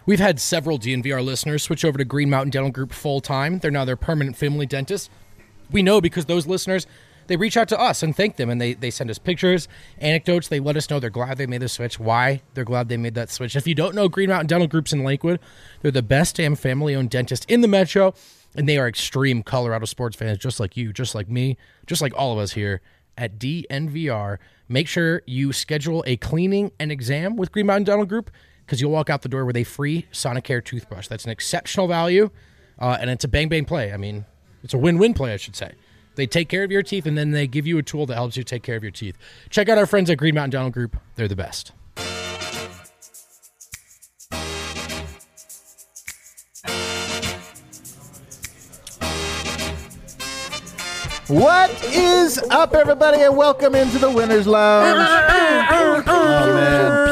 We've had several DNVR listeners switch over to Green Mountain Dental Group full-time. They're now their permanent family dentist. We know because those listeners, they reach out to us and thank them, and they send us pictures, anecdotes. They let us know they're glad they made the switch, why they're glad they made that switch. If you don't know Green Mountain Dental Group's in Lakewood, they're the best damn family-owned dentist in the metro, and they are extreme Colorado sports fans just like you, just like me, just like all of us here at DNVR. Make sure you schedule a cleaning and exam with Green Mountain Dental Group, because you'll walk out the door with a free Sonicare toothbrush. That's an exceptional value, and it's a bang-bang play. I mean, it's a win-win play, I should say. They take care of your teeth, and then they give you a tool that helps you take care of your teeth. Check out our friends at Green Mountain Dental Group. They're the best. What is up, everybody, and welcome into the Winners Lounge. Oh, man.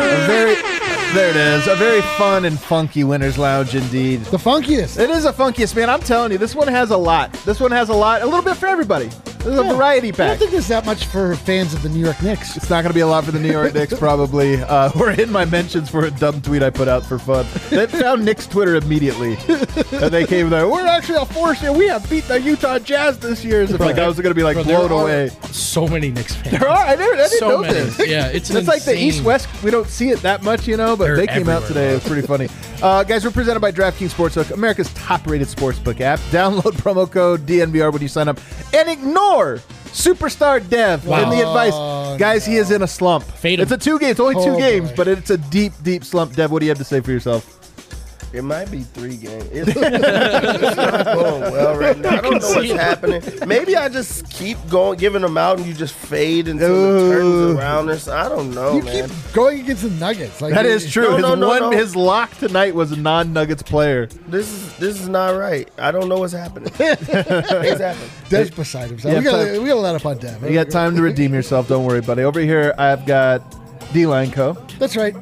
There it is. A very fun and funky Winners Lounge indeed. The funkiest. It is the funkiest, man. I'm telling you, this one has a lot. This one has a lot. A little bit for everybody. This is a variety I pack. don't think there's that much for fans of the New York Knicks. It's not going to be a lot for the New York Knicks, probably. We're in my mentions for a dumb tweet I put out for fun. They found Knicks Twitter immediately. And they came there, we're actually a force here. We have beat the Utah Jazz this year. As if like I was going to be like blown away. So many Knicks fans. There are. I didn't so know many. this. Yeah, it's like the East-West. We don't see it that much, you know, but they came out today. It was pretty funny. Guys, we're presented by DraftKings Sportsbook, America's top-rated sportsbook app. Download promo code DNVR when you sign up and ignore Superstar Dev in the advice. Guys, he is in a slump. Fade him. It's a 2 games. It's only 2 games, but it's a deep, deep slump. Dev, what do you have to say for yourself? It might be 3 games. It's not going well right now. I don't know what's happening. Maybe I just keep going, giving them out, and you just fade until it turns around. I don't know, you man. keep going against the Nuggets. Like, That is true. No. His lock tonight was a non-Nuggets player. This is not right. I don't know what's happening. What's happening? Dev's beside himself. Yeah, we got to let up on Dev. You got time to redeem yourself. Don't worry, buddy. Over here, I've got D-Line Co. That's right.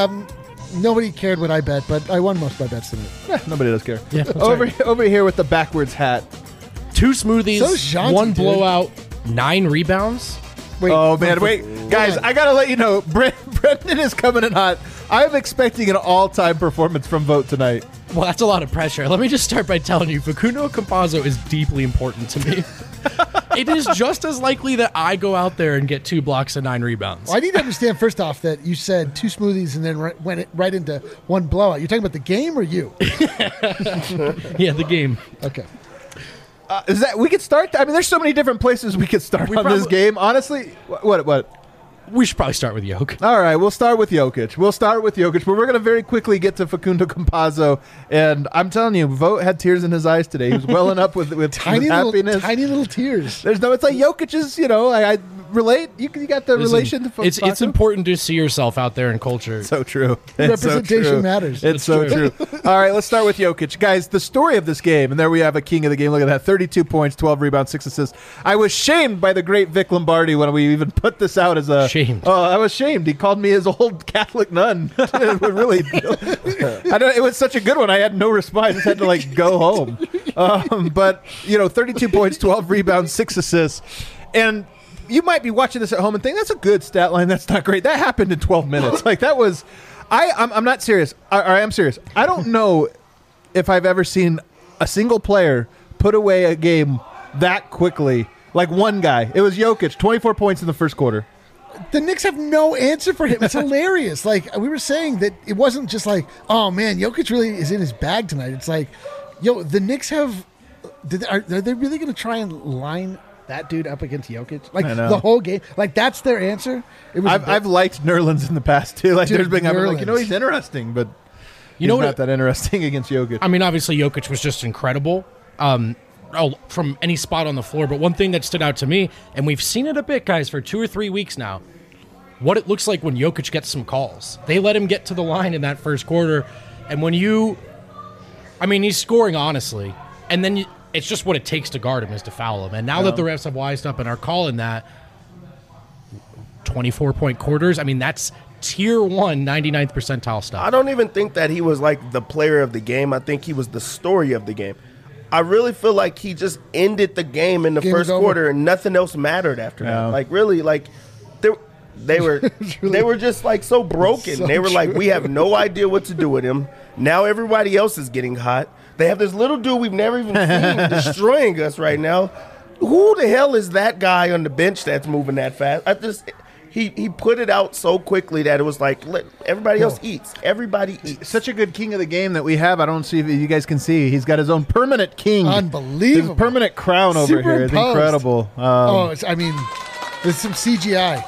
Nobody cared what I bet, but I won most of my bets tonight. Nobody does care. Yeah, over here with the backwards hat. 2 smoothies, So jaunty, 1 dude. blowout, 9 rebounds. Wait, Oh, man. Wait. Guys, on. I got to let you know, Brendan is coming in hot. I'm expecting an all-time performance from Vote tonight. Well, that's a lot of pressure. Let me just start by telling you, Facundo Campazzo is deeply important to me. It is just as likely that I go out there and get 2 blocks and 9 rebounds. Well, I need to understand first off that you said 2 smoothies and then went right into 1 blowout. You're talking about the game or you? Yeah, the game. Okay. Is that we could start? I mean, there's so many different places we could start on this game. Honestly, what? We should probably start with Yoke. All right, we'll start with Jokic. But we're going to very quickly get to Facundo Campazzo. And I'm telling you, Vote had tears in his eyes today. He was welling up with Tiny happiness. little tears. It's like Jokic's, I relate. You got the relation to It's Facundo? important to see yourself out there in culture. So true. It's so Representation true. matters. It's so true. All right, let's start with Jokic. Guys, the story of this game, and there we have a king of the game. Look at that, 32 points, 12 rebounds, 6 assists. I was shamed by the great Vic Lombardi when we even put this out as a... Shamed. Oh, I was shamed. He called me his old Catholic nun. It was such a good one. I had no response. I just had to, go home. But, 32 points, 12 rebounds, 6 assists. And... you might be watching this at home and think that's a good stat line. That's not great. That happened in 12 minutes. That was. I'm not serious. I am serious. I don't know if I've ever seen a single player put away a game that quickly. Like one guy. It was Jokic, 24 points in the first quarter. The Knicks have no answer for him. It's hilarious. We were saying that it wasn't just oh man, Jokic really is in his bag tonight. It's the Knicks have. Are they really going to try and line that dude up against Jokic? The whole game? That's their answer? I've liked Nerlens in the past too. There's been Nerlens. he's interesting, but You know he's what? not that interesting against Jokic. I mean, obviously, Jokic was just incredible from any spot on the floor. But one thing that stood out to me, and we've seen it a bit, guys, for 2 or 3 weeks now, what it looks like when Jokic gets some calls. They let him get to the line in that first quarter. And when he's scoring, honestly. And then it's just what it takes to guard him is to foul him. And now that the refs have wised up and are calling that 24-point quarters, that's tier 1 99th percentile stuff. I don't even think that he was the player of the game. I think he was the story of the game. I really feel like he just ended the game in the first quarter and nothing else mattered after that. they were just like so broken. So they were like, true. we have no idea what to do with him. Now everybody else is getting hot. They have this little dude we've never even seen destroying us right now. Who the hell is that guy on the bench that's moving that fast? He put it out so quickly that it was like, everybody else eats. Everybody eats. Such a good king of the game that we have. I don't see if you guys can see. He's got his own permanent king. Unbelievable. His permanent crown over here is Superimposed. incredible. There's some CGI.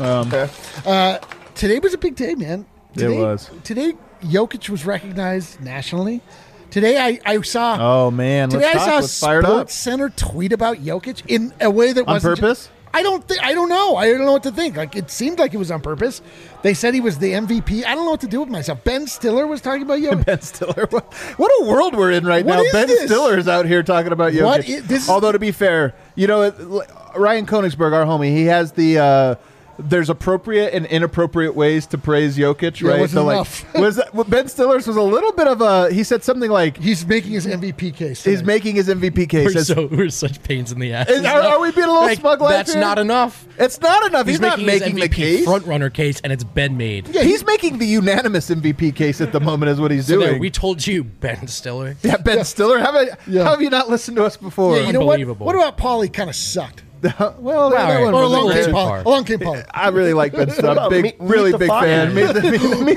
Today was a big day, man. Today, was. Today, Jokic was recognized nationally. Today, I saw. Oh man! Today, Let's I talk. saw Let's fire it up. Sports Center tweet about Jokic in a way that On wasn't purpose? I don't know. I don't know what to think. Like, it seemed like it was on purpose. They said he was the MVP. I don't know what to do with myself. Ben Stiller was talking about Jokic. Ben Stiller. What a world we're in right What now. is Ben this? Stiller is out here talking about Jokic. What is- this is- Although to be fair, Ryan Koenigsberg, our homie, he has the. There's appropriate and inappropriate ways to praise Jokic, Yeah, right? it wasn't enough. Ben Stiller's was a little bit of a. He said something like He's making his MVP case. he's tonight. making his MVP case. We're such pains in the ass. Are we being a little smug like That's here? not enough. It's not enough. He's not his making the MVP case. front runner case, and it's been made. Yeah, he's making the unanimous MVP case at the moment, is what he's So there, doing. we told you, Ben Stiller. Yeah, Ben Stiller. How have you not listened to us before? Yeah, you know what? Unbelievable. What about Paulie? Kind of sucked. well, that right. one Or was along a came little- Paulie. Along came Paulie. I really like Ben Stiller. about Big, Meet really the big Faku? fan. Meet the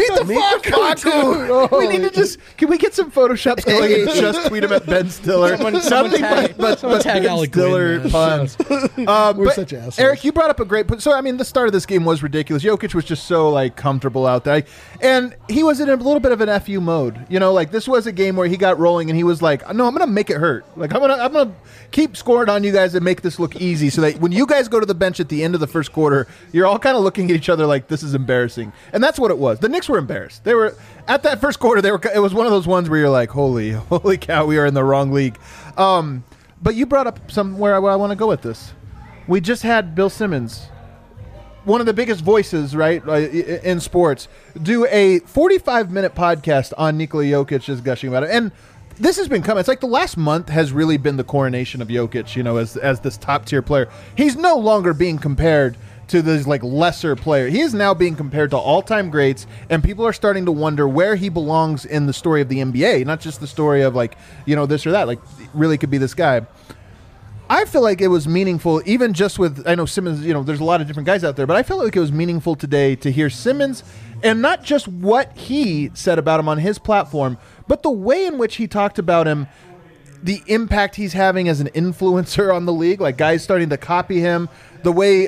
Faku. We need to just. Can we get some photoshops going and just tweet him at Ben Stiller? Someone tag Ben Alec Stiller Gwynn, puns. We're But such assholes. Eric, you brought up a great point. So, I mean, the start of this game was ridiculous. Jokic was just so, like, comfortable out there. And he was in a little bit of an FU mode. You know, like, this was a game where he got rolling and he was like, no, I'm going to make it hurt. Like, I'm gonna keep scoring on you guys and make this look easy so that when you guys go to the bench at the end of the first quarter, you're all kind of looking at each other like, this is embarrassing. And that's what it was. The Knicks were embarrassed. They were, at that first quarter, it was one of those ones where you're like, holy cow, we are in the wrong league. But you brought up somewhere I want to go with this. We just had Bill Simmons, one of the biggest voices, right, in sports, do a 45-minute podcast on Nikola Jokic, just gushing about it. And this has been coming. It's like the last month has really been the coronation of Jokic, you know, as this top-tier player. He's no longer being compared to this, like, lesser player. He is now being compared to all-time greats, and people are starting to wonder where he belongs in the story of the NBA, not just the story of, like, you know, this or that. Like, really could be this guy. I feel like it was meaningful, even just with, I know Simmons, you know, there's a lot of different guys out there, but I felt like it was meaningful today to hear Simmons, and not just what he said about him on his platform, but the way in which he talked about him, the impact he's having as an influencer on the league, like guys starting to copy him, the way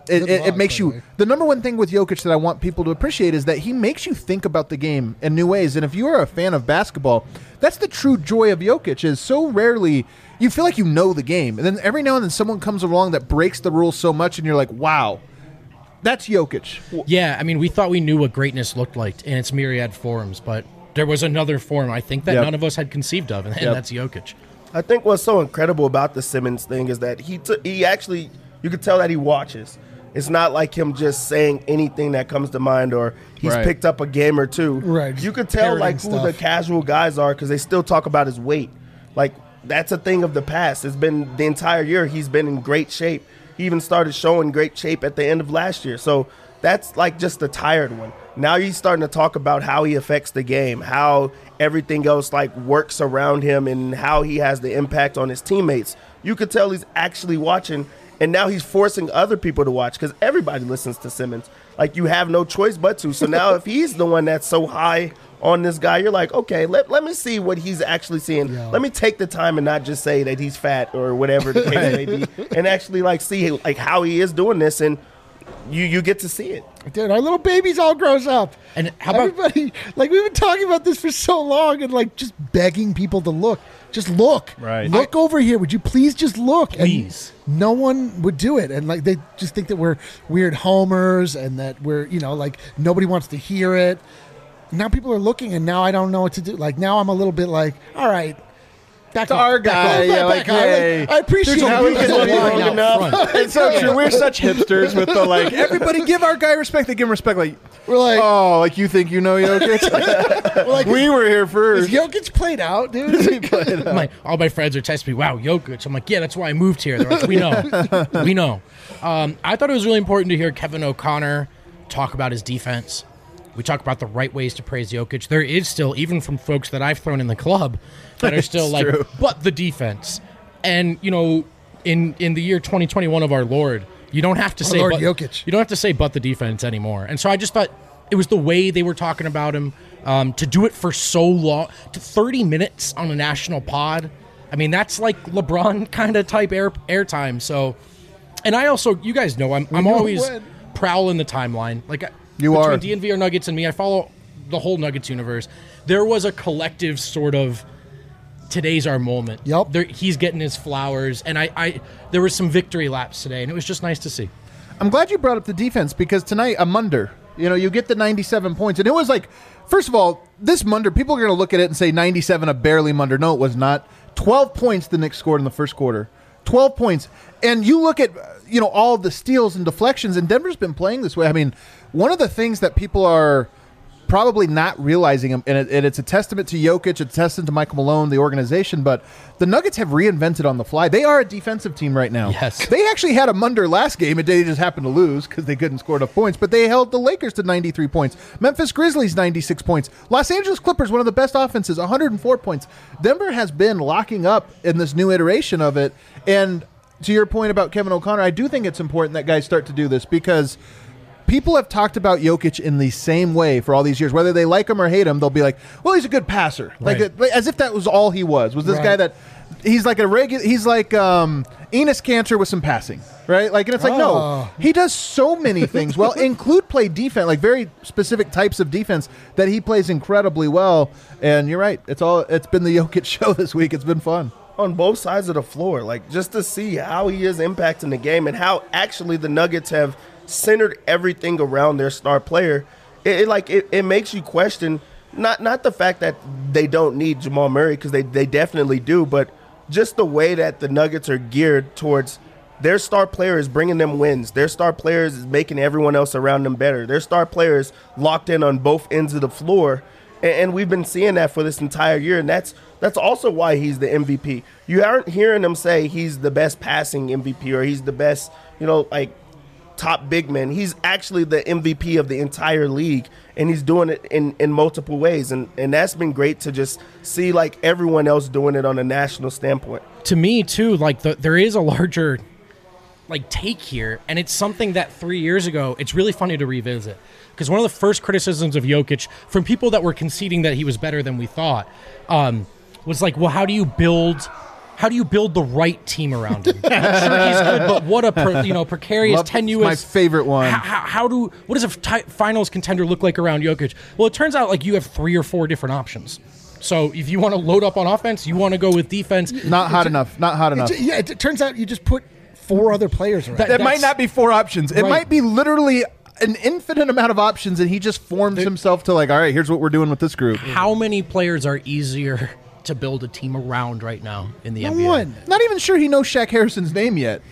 it makes you. The number one thing with Jokic that I want people to appreciate is that he makes you think about the game in new ways. And if you are a fan of basketball, that's the true joy of Jokic, is so rarely you feel like you know the game. And then every now and then someone comes along that breaks the rules so much and you're like, wow, that's Jokic. Yeah, I mean, we thought we knew what greatness looked like in its myriad forms, but there was another form, I think, that Yep. none of us had conceived of, and Yep. that's Jokic. I think what's so incredible about the Simmons thing is that he actually, you could tell that he watches. It's not like him just saying anything that comes to mind, or he's Right. picked up a game or two. Right. You could tell like Parroting who the stuff. casual guys are because they still talk about his weight. Like, that's a thing of the past. It's been the entire year he's been in great shape. He even started showing great shape at the end of last year. So that's like just the tired one. Now he's starting to talk about how he affects the game, how everything else like works around him, and how he has the impact on his teammates. You could tell he's actually watching, and now he's forcing other people to watch because everybody listens to Simmons. Like, you have no choice but to. So now if he's the one that's so high on this guy, you're like, okay, let me see what he's actually seeing. Yeah. Let me take the time and not just say that he's fat or whatever the case may be, and actually like see like how he is doing this, and you get to see it. Dude, our little babies all grows up. And how about- everybody? Like, we've been talking about this for so long, and like just begging people to look. Just look. Right. Look over here. Would you please just look? Please. And no one would do it, and like they just think that we're weird homers, and that we're like nobody wants to hear it. Now people are looking, and now I don't know what to do. Like, now I'm a little bit like, all right. Back It's our guy, yeah, like, hey. I appreciate There's a it. reason There's a why line out enough. front. It's so true. We're such hipsters with the, like, everybody give our guy respect. They give him respect. Like, We're like, oh, like you think you know Jokic? we're like, we were here is first. Jokic played out, dude? All my friends are texting me, wow, Jokic. I'm like, yeah, that's why I moved here. They're like, we know. We know. I thought it was really important to hear Kevin O'Connor talk about his defense. We talk about the right ways to praise Jokic. There is still, even from folks that I've thrown in the club, that are still like, true. but the defense. And, you know, in the year 2021 of our Lord, you don't have to say Lord but, Jokic. You don't have to say but the defense anymore. And so I just thought it was the way they were talking about him, to do it for so long, to 30 minutes on a national pod. I mean, that's like LeBron kind of type airtime. So, and I also, you guys know, I'm always prowling the timeline. Like you are between DNVR Nuggets and me, I follow the whole Nuggets universe. There was a collective sort of today's our moment. Yep. He's getting his flowers, and I there was some victory laps today, and it was just nice to see. I'm glad you brought up the defense because tonight, a Munder, you know, you get the 97 points. And it was like, first of all, this Munder, people are going to look at it and say 97, a barely Munder. No, it was not. 12 points the Knicks scored in the first quarter. 12 points. And you look at, you know, all of the steals and deflections, and Denver's been playing this way. I mean, one of the things that people are probably not realizing, and it's a testament to Jokic, it's a testament to Michael Malone, the organization, but the Nuggets have reinvented on the fly. They are a defensive team right now. Yes. They actually had a Munder last game, and they just happened to lose because they couldn't score enough points, but they held the Lakers to 93 points. Memphis Grizzlies, 96 points. Los Angeles Clippers, one of the best offenses, 104 points. Denver has been locking up in this new iteration of it, and to your point about Kevin O'Connor, I do think it's important that guys start to do this because people have talked about Jokic in the same way for all these years. Whether they like him or hate him, they'll be like, well, he's a good passer. Right. Like as if that was all he was this guy that he's like he's like Enos Cantor with some passing, right? Like, and it's like, no, he does so many things well, include play defense, like very specific types of defense that he plays incredibly well. And you're right. It's been the Jokic show this week. It's been fun. On both sides of the floor, like just to see how he is impacting the game and how actually the Nuggets have centered everything around their star player. It makes you question not the fact that they don't need Jamal Murray, because they definitely do, but just the way that the Nuggets are geared towards their star player is bringing them wins. Their star players is making everyone else around them better. Their star players locked in on both ends of the floor. And we've been seeing that for this entire year, and that's also why he's the MVP. You aren't hearing them say he's the best passing MVP or he's the best, like top big man. He's actually the MVP of the entire league, and he's doing it in multiple ways. And that's been great to just see like everyone else doing it on a national standpoint. To me, too, like there is a larger take here, and it's something that 3 years ago, it's really funny to revisit. Because one of the first criticisms of Jokic from people that were conceding that he was better than we thought was like, well, how do you build the right team around him? Sure, he's good, but what a precarious, tenuous. My favorite one. What does a finals contender look like around Jokic? Well, it turns out like you have 3 or 4 different options. So if you want to load up on offense, you want to go with defense. Not hot enough. It turns out you just put 4 other players around. That might not be 4 options. It Right. might be literally an infinite amount of options, and he just forms himself to like, all right, here's what we're doing with this group. How many players are easier to build a team around right now in the NBA? One. Not even sure he knows Shaq Harrison's name yet.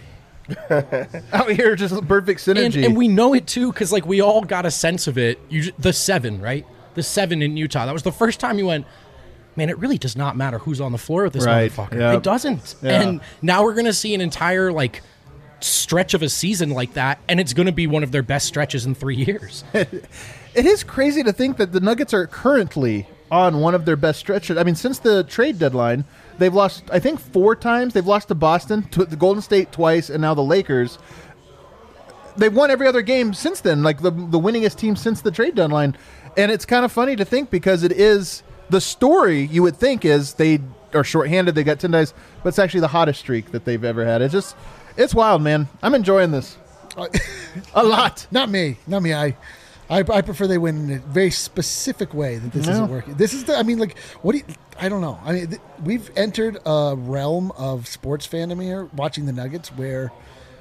Out here, just perfect synergy. And we know it too, because like we all got a sense of it. The 7, right? The 7 in Utah. That was the first time you went, man, it really does not matter who's on the floor with this Right. motherfucker. Yep. It doesn't. Yeah. And now we're going to see an entire stretch of a season like that, and it's going to be one of their best stretches in 3 years. It is crazy to think that the Nuggets are currently on one of their best stretches. I mean, since the trade deadline, they've lost, I think, 4 times. They've lost to Boston, to the Golden State twice, and now the Lakers. They've won every other game since then, like the winningest team since the trade deadline. And it's kind of funny to think because it is the story you would think is they are shorthanded, they got 10 days, but it's actually the hottest streak that they've ever had. It's wild, man. I'm enjoying this a lot. Not me. I prefer they win in a very specific way that this isn't working. This is I don't know. I mean, we've entered a realm of sports fandom here, watching the Nuggets, where,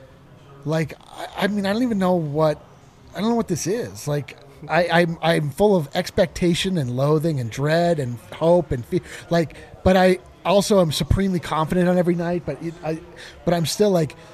I don't even know what this is. Like, I'm full of expectation and loathing and dread and hope and fear. But I also am supremely confident on every night. But I'm still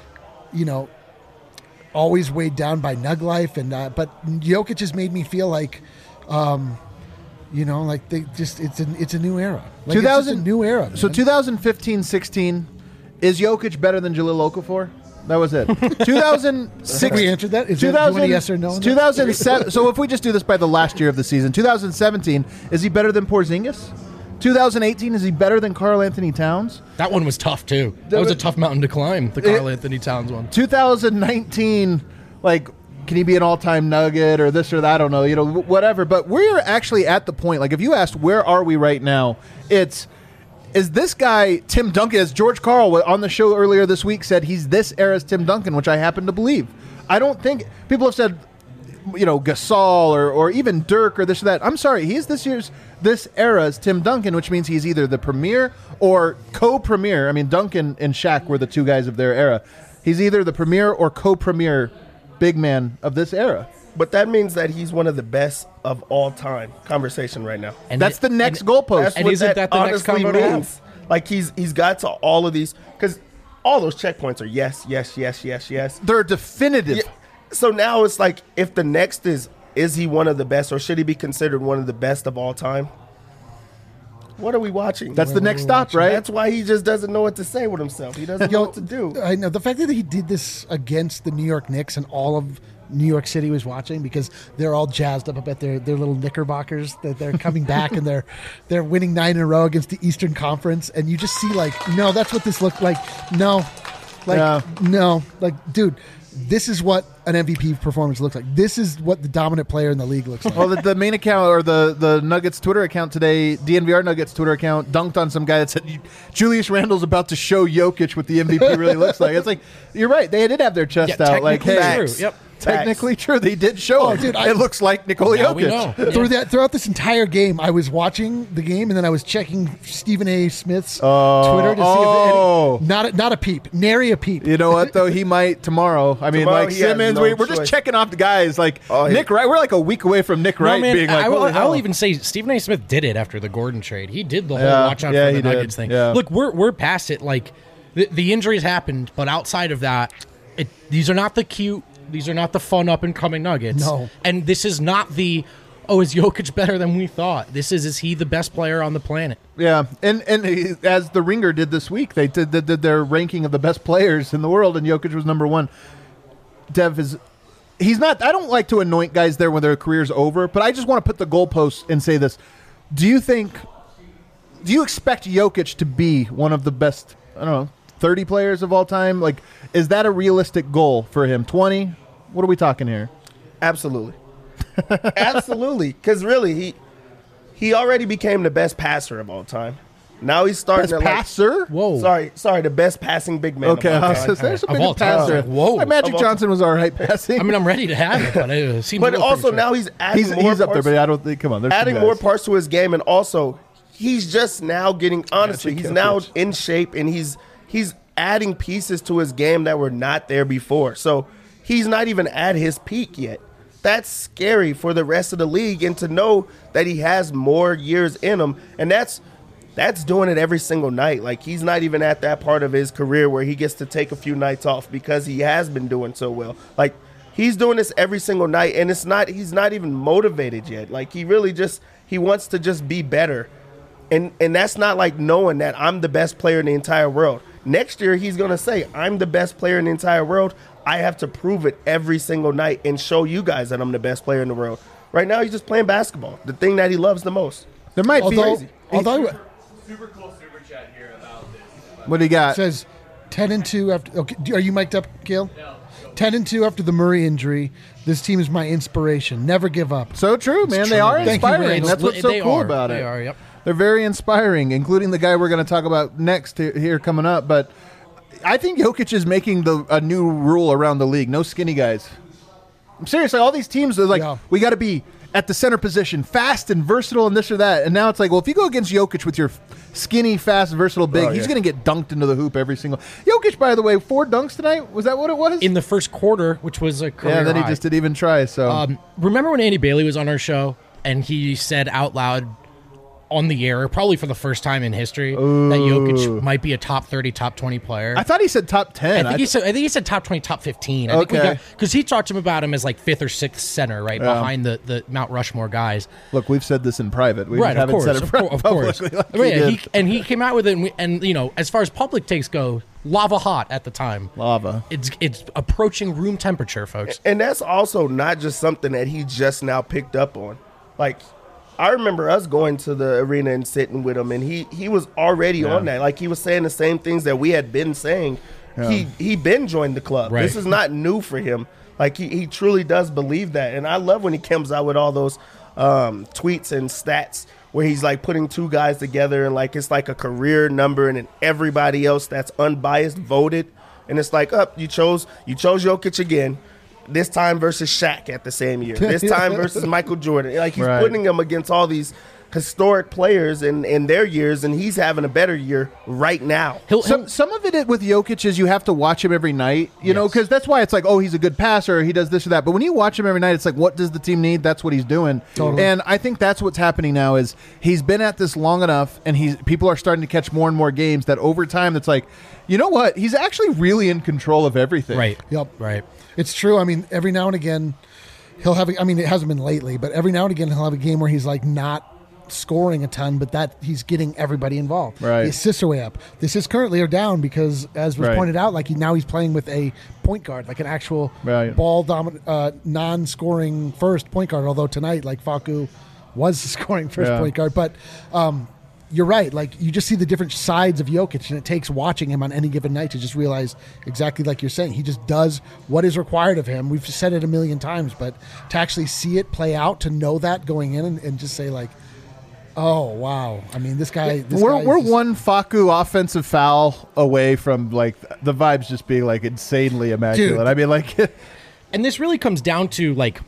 always weighed down by Nug life, and but Jokic has made me feel like You know, like they just it's a new era. Like 2000 it's just a new era. So man. 2015-16, is Jokic better than Jahlil Okafor? That was it. 2006. Have we answered that? Is there, do you want a yes or no? on that? 2007. So if we just do this by the last year of the season, 2017, is he better than Porzingis? 2018, is he better than Karl Anthony Towns? That one was tough too. That was a tough mountain to climb. The Karl Anthony Towns one. 2019, like, can he be an all-time Nugget or this or that? I don't know, whatever. But we're actually at the point, like, if you asked where are we right now, is this guy Tim Duncan, as George Karl on the show earlier this week said, he's this era's Tim Duncan, which I happen to believe. I don't think people have said, Gasol or even Dirk or this or that. I'm sorry, he's this era's Tim Duncan, which means he's either the premier or co-premier. I mean, Duncan and Shaq were the two guys of their era. He's either the premier or co-premier big man of this era. But that means that he's one of the best of all time. Conversation right now. And that's the next goalpost. That's And what isn't that the next honestly convo to have? means. Like he's got to all of these, because all those checkpoints are yes, yes, yes, yes, yes. They're definitive. Yeah. So now it's like, if the next is he one of the best, or should he be considered one of the best of all time? What are we watching? That's the next stop, right? That's why he just doesn't know what to say with himself. He doesn't know what to do. I know the fact that he did this against the New York Knicks and all of New York City was watching, because they're all jazzed up about their little Knickerbockers that they're coming back and they're winning 9 in a row against the Eastern Conference, and you just see like, no, that's what this looked like. No, dude, this is what an MVP performance looks like. This is what the dominant player in the league looks like. Well, the main account, or the Nuggets Twitter account today, DNVR Nuggets Twitter account, dunked on some guy that said Julius Randle's about to show Jokic what the MVP really looks like. It's like, you're right. They did have their chest out. Like, hey, technically true. Yep. technically true. They did show it. Dude, it looks like Nikola Now we Jokic. know. Throughout this entire game, I was watching the game, and then I was checking Stephen A. Smith's Twitter to see if not a peep, nary a peep. You know what, though? He might tomorrow. I mean, Tomorrow like he has Simmons, no we're choice. just checking off the guys. Like Oh, Nick Wright, we're like a week away from Nick No, Wright man, being like, I holy hell. will even say Stephen A. Smith did it after the Gordon trade. He did the whole Yeah, watch out yeah, for the he did. Nuggets thing. Yeah. Look, we're past it. Like the injuries happened, but outside of that, these are not the cute. These are not the fun up and coming Nuggets. No. And this is not the, is Jokic better than we thought? This is he the best player on the planet? Yeah, and as the Ringer did this week, they did their ranking of the best players in the world, and Jokic was number one. Dev he's not. I don't like to anoint guys there when their career's over, but I just want to put the goalposts and say this: do you expect Jokic to be one of the best? I don't know, 30 players of all time? Like, is that a realistic goal for him? 20? What are we talking here? Absolutely. Absolutely. Because really, he already became the best passer of all time. Now he's starting Best to passer? Whoa. Sorry, the best passing big man. Okay, of all I time. was there's a Of big all time. passer. Whoa. Like, Magic Of all Johnson was all right passing. I mean, I'm ready to have it, but it seems. But a little also premature. now he's adding more he's up there, parts, but I don't think. Come on, there's some adding guys. more parts to his game, and also he's just now getting. Honestly, Magic he's now Jokic. in shape, and he's adding pieces to his game that were not there before. So he's not even at his peak yet. That's scary for the rest of the league, and to know that he has more years in him, and that's doing it every single night. Like, he's not even at that part of his career where he gets to take a few nights off because he has been doing so well. Like, he's doing this every single night, and he's not even motivated yet. Like, he wants to just be better. And that's not like knowing that I'm the best player in the entire world. Next year, he's going to say, I'm the best player in the entire world. I have to prove it every single night and show you guys that I'm the best player in the world. Right now, he's just playing basketball, the thing that he loves the most. There might be. Although Super cool super chat here about this. What do you got? says 10-2 after. Okay, are you mic'd up, Gil? 10-2 after the Murray injury. This team is my inspiration. Never give up. So true, man. They are Thank you, inspiring. Randall. That's what's so They cool are. about it. They are, yep. They're very inspiring, including the guy we're going to talk about next here coming up. But I think Jokic is making a new rule around the league. No skinny guys. I'm serious. Like, all these teams are like, we got to be at the center position, fast and versatile and this or that. And now it's like, well, if you go against Jokic with your skinny, fast, versatile big, he's going to get dunked into the hoop every single. Jokic, by the way, 4 dunks tonight. Was that what it was? in the first quarter, which was a career yeah, then he high. just didn't even try. So Remember when Andy Bailey was on our show and he said out loud, on the air, probably for the first time in history, that Jokic might be a top 30, top 20 player. I thought he said top 10. I think he said top 20, top 15. Okay. Because he talked to him about him as like 5th or 6th center, right, behind the Mount Rushmore guys. Look, we've said this in private. We Right, of haven't course, said it of course. publicly like He came out with it, and you know, as far as public takes go, lava hot at the time. Lava. It's approaching room temperature, folks. And that's also not just something that he just now picked up on. Like, I remember us going to the arena and sitting with him, and he was already on that. Like, he was saying the same things that we had been saying. Yeah. He been joined the club. Right. This is not new for him. Like, he truly does believe that. And I love when he comes out with all those tweets and stats where he's, like, putting two guys together, and, like, it's like a career number, and then everybody else that's unbiased voted. And it's like, you chose Jokic again. This time versus Shaq at the same year. This time versus Michael Jordan. Like, he's putting them against all these historic players in their years, and he's having a better year right now. Some of it with Jokic is you have to watch him every night, you know, because that's why it's like, oh, he's a good passer, he does this or that. But when you watch him every night, it's like, what does the team need? That's what he's doing. Totally. And I think that's what's happening now is he's been at this long enough, and people are starting to catch more and more games that over time it's like, you know what? He's actually really in control of everything. Right. Yep. Right. It's true. I mean, every now and again, he'll have. I mean, it hasn't been lately, but every now and again, he'll have a game where he's like not scoring a ton, but that he's getting everybody involved. Right. The assists are way up. The assists currently are down because, as was pointed out, like now he's playing with a point guard, like an actual ball dominant, non-scoring first point guard. Although tonight, like Facu was scoring first point guard, but. You're right. Like, you just see the different sides of Jokic, and it takes watching him on any given night to just realize exactly like you're saying. He just does what is required of him. We've said it a million times, but to actually see it play out, to know that going in and just say, like, oh, wow. I mean, this guy. We're one Facu offensive foul away from, like, the vibes just being, like, insanely immaculate. Dude. I mean, like. And this really comes down to, like,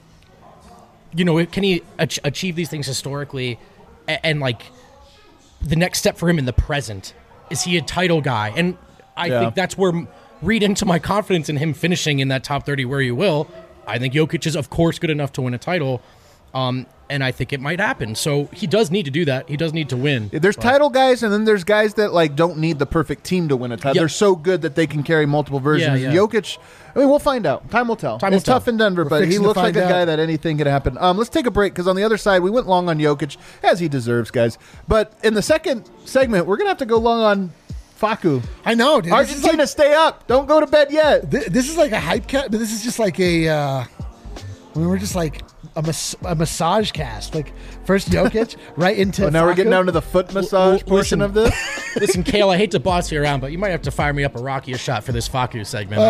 you know, can he achieve these things historically and like, the next step for him in the present, is he a title guy? And I think that's where, read into my confidence in him finishing in that top 30 where you will. I think Jokic is, of course, good enough to win a title. And I think it might happen. So he does need to do that. He does need to win. There's title guys, and then there's guys that like don't need the perfect team to win a title. Yep. They're so good that they can carry multiple versions. Jokic, I mean, we'll find out. Time will tell. It's tough in Denver, but he looks like a guy that anything could happen. Let's take a break, because on the other side, we went long on Jokic, as he deserves, guys. But in the second segment, we're going to have to go long on Facu. I know, dude. Argentina, stay up. Don't go to bed yet. This is like a hype cat, but this is just like a... we're just like a massage cast. Like, first Jokic, right into now Facu. We're getting down to the foot massage portion of this. Listen, Kale, I hate to boss you around, but you might have to fire me up a Rocky a shot for this Facu segment.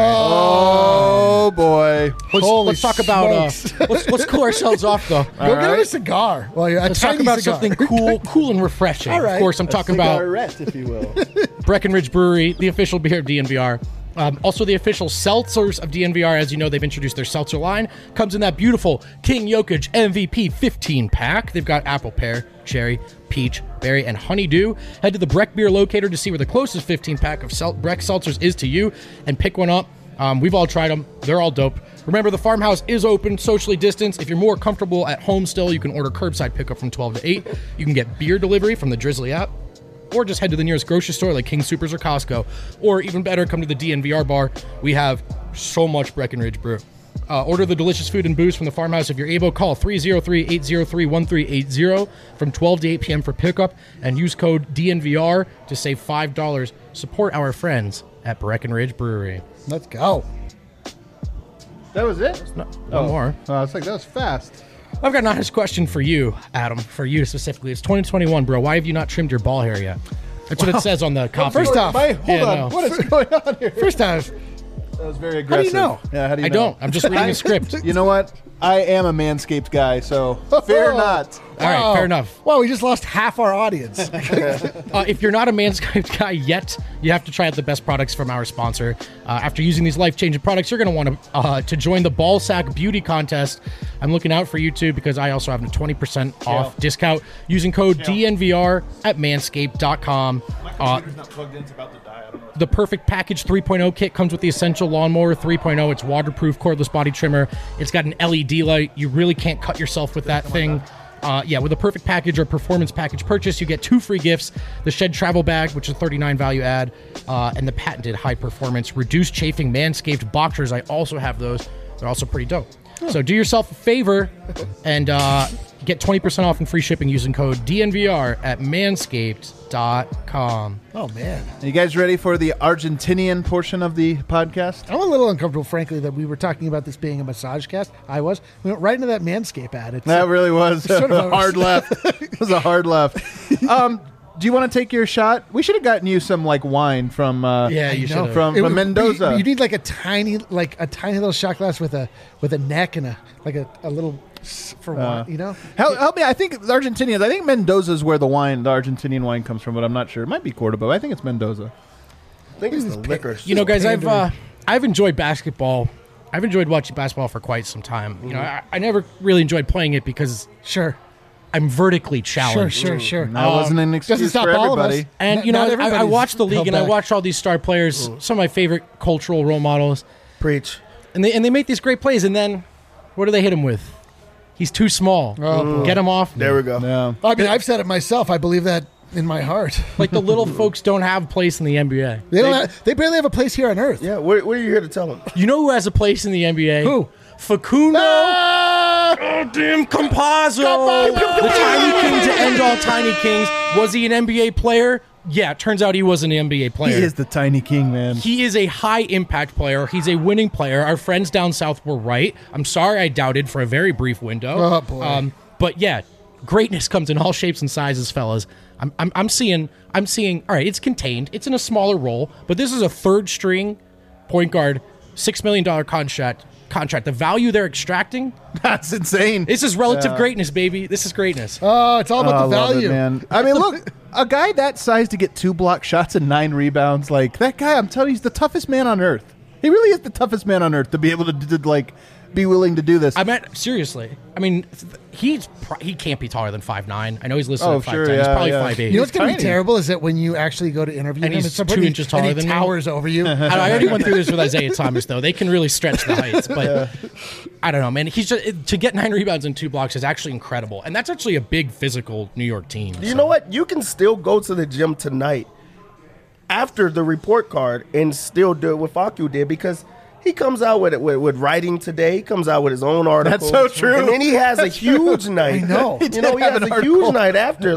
Oh, boy. Let's talk about... let's cool ourselves off, though. Go get a cigar. Let's talk about something cool and refreshing. All right. Of course, I'm talking about... if you will. Breckenridge Brewery, the official beer of DNVR. Also, the official seltzers of DNVR. As you know, they've introduced their seltzer line. Comes in that beautiful King Jokic MVP 15-pack. They've got apple, pear, cherry, peach, berry, and honeydew. Head to the Breck Beer Locator to see where the closest 15-pack of Breck seltzers is to you and pick one up. We've all tried them. They're all dope. Remember, the farmhouse is open, socially distanced. If you're more comfortable at home still, you can order curbside pickup from 12 to 8. You can get beer delivery from the Drizzly app. Or just head to the nearest grocery store like King Soopers or Costco. Or even better, come to the DNVR bar. We have so much Breckenridge brew. Order the delicious food and booze from the farmhouse if you're able. Call 303-803-1380 from 12 to 8 p.m. for pickup. And use code DNVR to save $5. Support our friends at Breckenridge Brewery. Let's go. That was it? One more. It's like, that was fast. I've got an honest question for you, Adam, for you specifically. It's 2021, bro. Why have you not trimmed your ball hair yet? That's what it says on the copy. First off, hold on. What is going on here? First off, that was very aggressive. How do you know? Yeah, how do you I know? don't. I'm just reading a script. You know what? I am a Manscaped guy, so fear not. All right, fair enough. Well, we just lost half our audience. If you're not a Manscaped guy yet, you have to try out the best products from our sponsor. After using these life-changing products, you're going to want to join the Ball Sack Beauty Contest. I'm looking out for you too, because I also have a 20% off discount using code DNVR at manscaped.com. My computer's not plugged in. It's about to die. I don't know. The Perfect Package 3.0 kit comes with the Essential Lawnmower 3.0. It's waterproof, cordless body trimmer. It's got an LED light. You really can't cut yourself with that thing. With a perfect package or performance package purchase, you get 2 free gifts: the Shed Travel Bag, which is $39 value add, and the patented high performance reduced chafing Manscaped boxers. I also have those. They're also pretty dope. So do yourself a favor and get 20% off and free shipping using code DNVR at manscaped.com. Oh, man. Are you guys ready for the Argentinian portion of the podcast? I'm a little uncomfortable, frankly, that we were talking about this being a massage cast. I was. We went right into that Manscaped ad. That really was sort of a hard left. It was a hard left. Do you want to take your shot? We should have gotten you some wine from You should from Mendoza. You need a tiny little shot glass with a neck and a little for wine. Help me. I think Argentinians. I think Mendoza is where the Argentinian wine comes from, but I'm not sure. It might be Cordoba. I think it's Mendoza. I think it's the liquor. Guys, I've enjoyed basketball. I've enjoyed watching basketball for quite some time. I never really enjoyed playing it because I'm vertically challenged. Sure. That wasn't an excuse for everybody. And I watched the league and I watched all these star players, some of my favorite cultural role models. Preach. And they make these great plays, and then what do they hit him with? He's too small. Get him off. There we go. Yeah. I mean, I've said it myself. I believe that in my heart. Like the little folks don't have a place in the NBA. They barely have a place here on Earth. Yeah, what are you here to tell them? You know who has a place in the NBA? Who? Facundo. Goddamn Campazzo. The tiny king to end all tiny kings. Was he an NBA player? Yeah, it turns out he was an NBA player. He is the tiny king, man. He is a high-impact player. He's a winning player. Our friends down south were right. I'm sorry I doubted for a very brief window. Oh, boy. But yeah, greatness comes in all shapes and sizes, fellas. I'm seeing, all right, it's contained. It's in a smaller role, but this is a third-string point guard, $6 million contract. The value they're extracting, that's insane. This is relative greatness, baby. This is greatness. Oh, it's all about the value. Man. I mean, look, a guy that size to get 2 block shots and 9 rebounds, that guy, I'm telling you, he's the toughest man on earth. He really is the toughest man on earth to be able to be willing to do this. I meant seriously. I mean, he can't be taller than 5'9". I know he's listed at 5'10". Sure, he's probably 5'8". You know what's going to be terrible is that when you actually go to interview and him, he's 2 inches taller than he towers over you. I already went through this with Isaiah Thomas, though. They can really stretch the heights, but I don't know, man. He's just, to get 9 rebounds and 2 blocks is actually incredible, and that's actually a big physical New York team. You know what? You can still go to the gym tonight after the report card and still do what Facu did, because he comes out with writing today. He comes out with his own article. That's so true. And then he has a huge night. I know. He has a huge night after.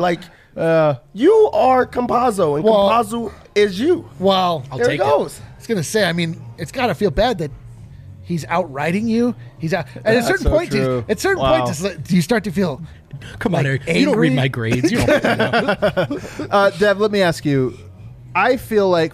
You are Campazzo, and Campazzo is you. Wow. I'll There take it goes. I was going to say, I mean, it's got to feel bad that he's outwriting you. He's out. At a certain point, true. do you start to feel Come on, Eric. angry? You don't read my grades. You don't know. Dev, let me ask you. I feel like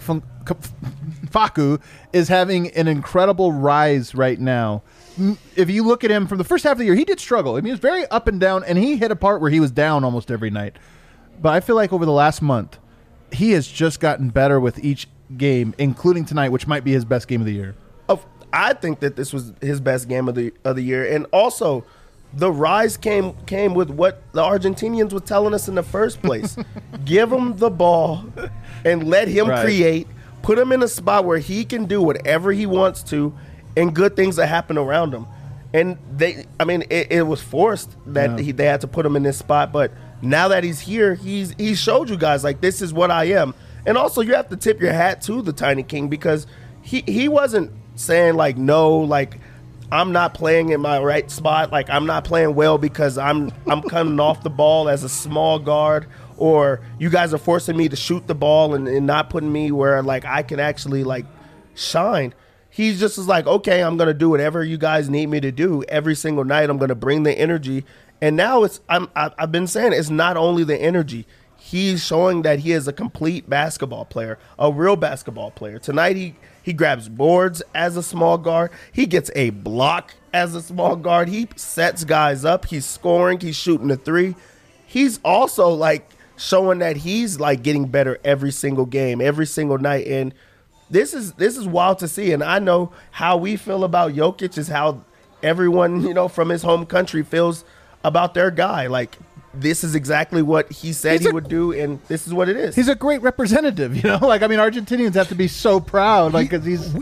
Facu is having an incredible rise right now. If you look at him from the first half of the year, he did struggle. I mean, he was very up and down, and he hit a part where he was down almost every night. But I feel like over the last month, he has just gotten better with each game, including tonight, which might be his best game of the year. I think that this was his best game of the year, and also the rise came with what the Argentinians were telling us in the first place: give him the ball and let him create. Put him in a spot where he can do whatever he wants to, and good things that happen around him. And it was forced that they had to put him in this spot, but now that he's here, he showed you guys this is what I am. And also, you have to tip your hat to the Tiny King, because he wasn't saying no, I'm not playing in my right spot, I'm not playing well because I'm coming off the ball as a small guard, or you guys are forcing me to shoot the ball and not putting me where I can actually shine. He just is okay, I'm gonna do whatever you guys need me to do every single night. I'm gonna bring the energy, and now I've been saying it's not only the energy. He's showing that he is a complete basketball player, a real basketball player. Tonight he grabs boards as a small guard. He gets a block as a small guard. He sets guys up. He's scoring. He's shooting the three. He's also showing that he's getting better every single game, every single night. And this is wild to see. And I know how we feel about Jokic is how everyone, from his home country feels about their guy. This is exactly what he said he would do, and this is what it is. He's a great representative, Argentinians have to be so proud, because he's...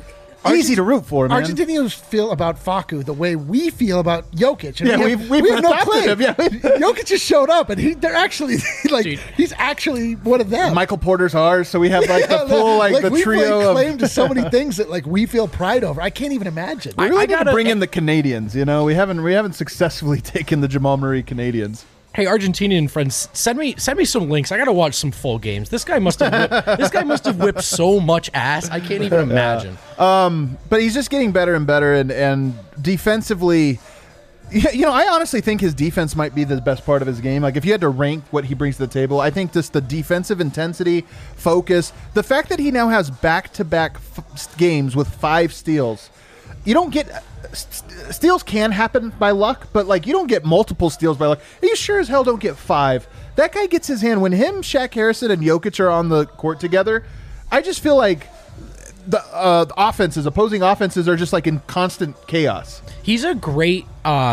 easy to root for, man. Argentinians feel about Facu the way we feel about Jokic. And Yeah, we've we have no adopted claim. him, yeah. Jokic just showed up, and they're actually like Dude. he's actually one of them. Michael Porter's ours, so we have like the full the we trio claim of. to so many things that like we feel pride over. I can't even imagine. We really I need to gotta- bring in the Canadians. You know, we haven't successfully taken the Jamal Murray Canadians. Hey, Argentinian friends, send me some links. I gotta watch some full games. This guy must have whipped so much ass. I can't even imagine. But he's just getting better and better, and defensively, I honestly think his defense might be the best part of his game. Like, if you had to rank what he brings to the table, I think just the defensive intensity, focus, the fact that he now has back-to-back games with 5 steals. You don't get steals can happen by luck, but like you don't get multiple steals by luck. You sure as hell don't get 5. That guy gets his hand when him, Shaq Harrison, and Jokic are on the court together. I just feel like the opposing offenses are just like in constant chaos. He's a great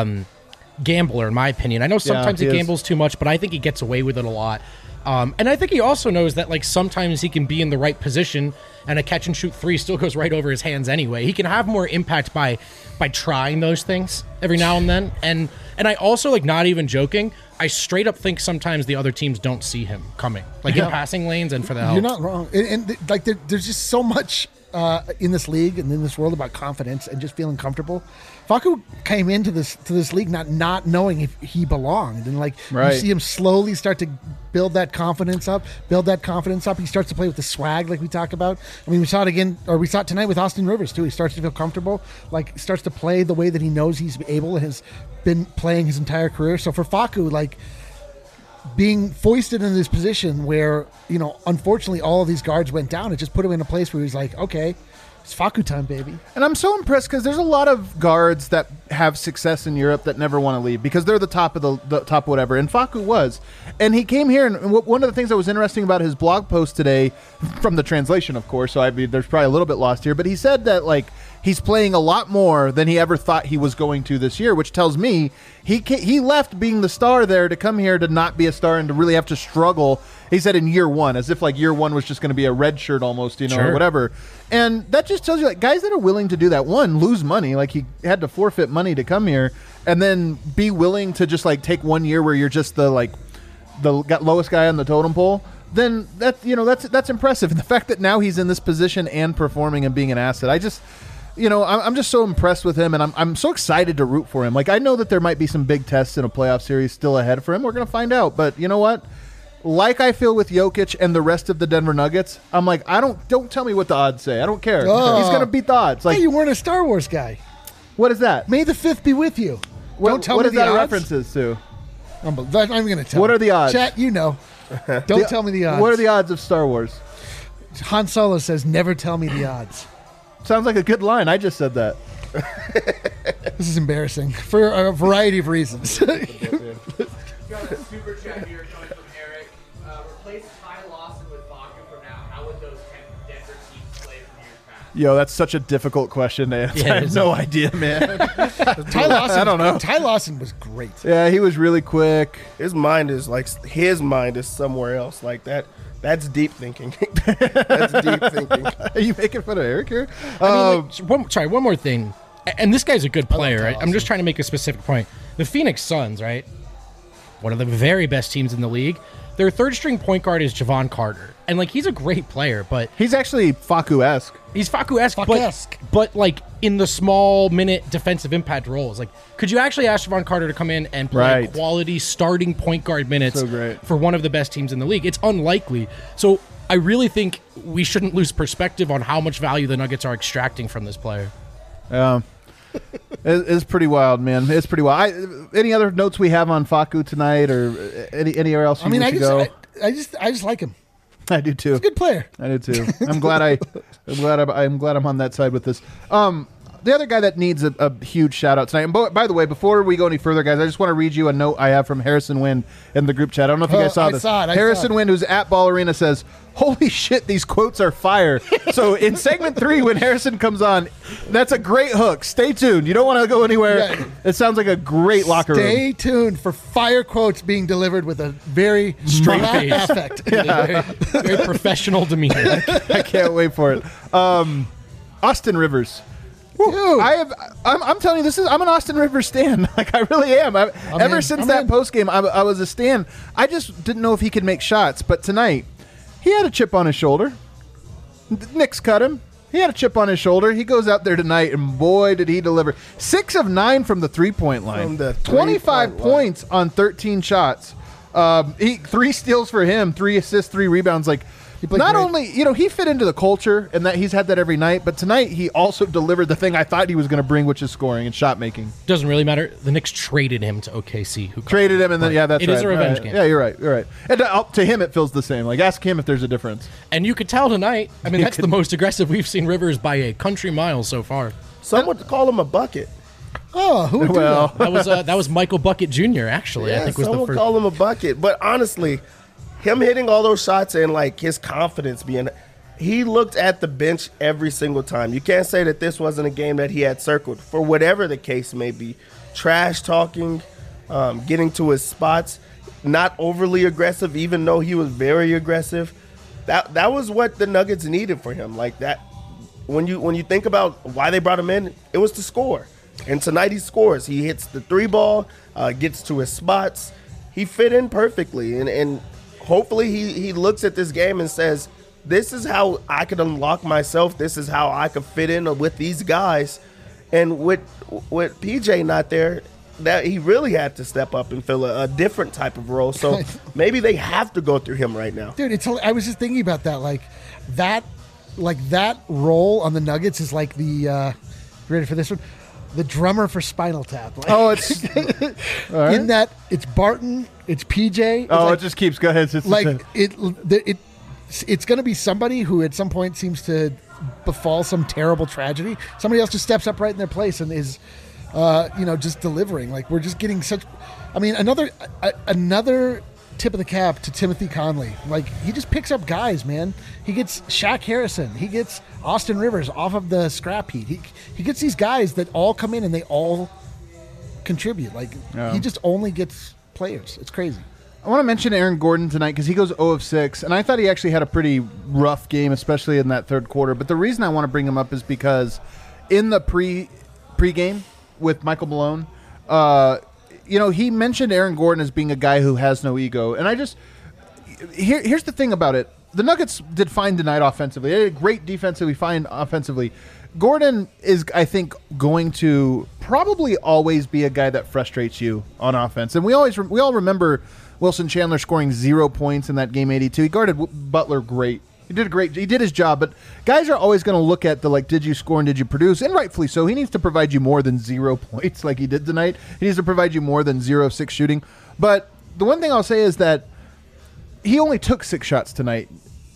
gambler, in my opinion. I know sometimes he he is. gambles too much, but I think he gets away with it a lot. And I think he also knows that like sometimes he can be in the right position and a catch and shoot 3 still goes right over his hands anyway. He can have more impact by trying those things every now and then. And I also, like, not even joking, I straight up think sometimes the other teams don't see him coming, like in passing lanes and for the help. You're not wrong. And like there's just so much in this league and in this world about confidence and just feeling comfortable. Facu came into this league not knowing if he belonged, and like Right. you see him slowly start to build that confidence up. He starts to play with the swag like we talk about. I mean, we saw it tonight with Austin Rivers too. He starts to feel comfortable, like starts to play the way that he knows he's able and has been playing his entire career. So for Facu, like, being foisted in this position where, unfortunately all of these guards went down, it just put him in a place where he's like, okay, it's Facu time, baby. And I'm so impressed because there's a lot of guards that have success in Europe that never want to leave because they're the top of the top whatever. And Facu was. And he came here, and one of the things that was interesting about his blog post today, from the translation, of course, so I mean, there's probably a little bit lost here, but he said that, like, he's playing a lot more than he ever thought he was going to this year, which tells me he left being the star there to come here to not be a star and to really have to struggle. He said in year 1, as if like year 1 was just going to be a red shirt almost, or Sure. whatever. And that just tells you, like, guys that are willing to do that, one, lose money, like he had to forfeit money to come here, and then be willing to just like take 1 year where you're just the lowest guy on the totem pole. Then that's impressive. And the fact that now he's in this position and performing and being an asset, I'm just so impressed with him, and I'm so excited to root for him. Like, I know that there might be some big tests in a playoff series still ahead for him. We're going to find out. But you know what? Like I feel with Jokic and the rest of the Denver Nuggets, I'm like, don't tell me what the odds say. I don't care. Oh. He's going to beat the odds. Like, Hey, you weren't a Star Wars guy. what is that? May the 5th be with you. Don't tell what me is the that odds. references to? I'm going to tell. What are the odds? Chat, Don't tell me the odds. What are the odds of Star Wars? Han Solo says, never tell me the odds. Sounds like a good line. I just said that. This is embarrassing for a variety of reasons. Got a super chat here coming from Eric. Replace Ty Lawson with Facu from now. How would those 10 Denver teams play from years past? Yo, that's such a difficult question to answer. Yeah, I have no idea, man. Ty Lawson, I don't know. Ty Lawson was great. Yeah, he was really quick. His mind is somewhere else. Like that. That's deep thinking. That's deep thinking. Are you making fun of Eric here? One more thing. And this guy's a good player, Ty right? I'm just trying to make a specific point. The Phoenix Suns, right? One of the very best teams in the league. Their third string point guard is Javon Carter. And, like, he's a great player, but He's actually Facu-esque. he's Facu-esque, Facu-esque. but like, in the small minute defensive impact roles. Like, could you actually ask Javon Carter to come in and play Right. quality starting point guard minutes So great. for one of the best teams in the league? It's unlikely. So I really think we shouldn't lose perspective on how much value the Nuggets are extracting from this player. It's pretty wild, man. It's pretty wild. Any other notes we have on Facu tonight, or anywhere else? I go? just like him. I do too. He's a good player. I do too. I'm glad I'm on that side with this. The other guy that needs a huge shout out tonight. And by the way, before we go any further, guys, I just want to read you a note I have from Harrison Wind in the group chat. I don't know if you guys saw I this. saw it. Harrison Wind, who's at Ball Arena, says, "Holy shit, these quotes are fire." So in segment 3, when Harrison comes on, that's a great hook. Stay tuned. You don't want to go anywhere. Yeah. It sounds like a great locker room. Stay tuned for fire quotes being delivered with a very Straight mock face. affect. Very professional demeanor. I can't wait for it. Austin Rivers. Dude. I'm telling you, I'm an Austin Rivers stan. Like, I really am. Ever since that post game, I was a stan. I just didn't know if he could make shots. But tonight, he had a chip on his shoulder. Knicks cut him. He had a chip on his shoulder. He goes out there tonight, and boy, did he deliver. 6 of 9 from the three-point line. From the 25 points on 13 shots. 3 steals for him, 3 assists, 3 rebounds. Like, not only, he fit into the culture and that he's had that every night, but tonight he also delivered the thing I thought he was going to bring, which is scoring and shot making. Doesn't really matter. The Knicks traded him to OKC. Who traded him, and then that's right. It is a revenge game. Yeah, you're right. And to him, it feels the same. Like, ask him if there's a difference. And you could tell tonight. I mean, that's the most aggressive we've seen Rivers by a country mile so far. Some would call him a bucket. Oh, who would do that? That was Michael Bucket Jr. Actually, Yeah, I think was some the would first. call him a bucket. But honestly, him hitting all those shots and like his confidence being, he looked at the bench every single time. You can't say that this wasn't a game that he had circled for whatever the case may be. Trash talking, getting to his spots, not overly aggressive, even though he was very aggressive. That was what the Nuggets needed for him. Like that, when you think about why they brought him in, it was to score. And tonight he scores. He hits the 3 ball, gets to his spots. He fit in perfectly, and hopefully he looks at this game and says, this is how I could unlock myself. This is how I could fit in with these guys. And with PJ not there, that he really had to step up and fill a different type of role. So maybe they have to go through him right now. Dude, I was just thinking about that. Like that role on the Nuggets is like the ready for this one? The drummer for Spinal Tap. Like, It's right. in that it's Barton, it's PJ. It just keeps going. It's like it's going to be somebody who at some point seems to befall some terrible tragedy. Somebody else just steps up right in their place and is, just delivering. Like, we're just getting such. I mean, another tip of the cap to Timothy Conley. Like, he just picks up guys, man. He gets Shaq Harrison. He gets Austin Rivers off of the scrap heap. He gets these guys that all come in and they all contribute. Like, he just only gets players. It's crazy. I want to mention Aaron Gordon tonight because he goes 0 of 6, and I thought he actually had a pretty rough game, especially in that third quarter. But the reason I want to bring him up is because in the pregame with Michael Malone, he mentioned Aaron Gordon as being a guy who has no ego. And here's the thing about it. The Nuggets did fine tonight offensively. They did great defensively, fine offensively. Gordon is, I think, going to probably always be a guy that frustrates you on offense. And we all remember Wilson Chandler scoring 0 points in that game 82. He guarded Butler great. He did his job, but guys are always going to look at did you score and did you produce? And rightfully so. He needs to provide you more than 0 points like he did tonight. He needs to provide you more than 0 of 6 shooting. But the one thing I'll say is that he only took 6 shots tonight.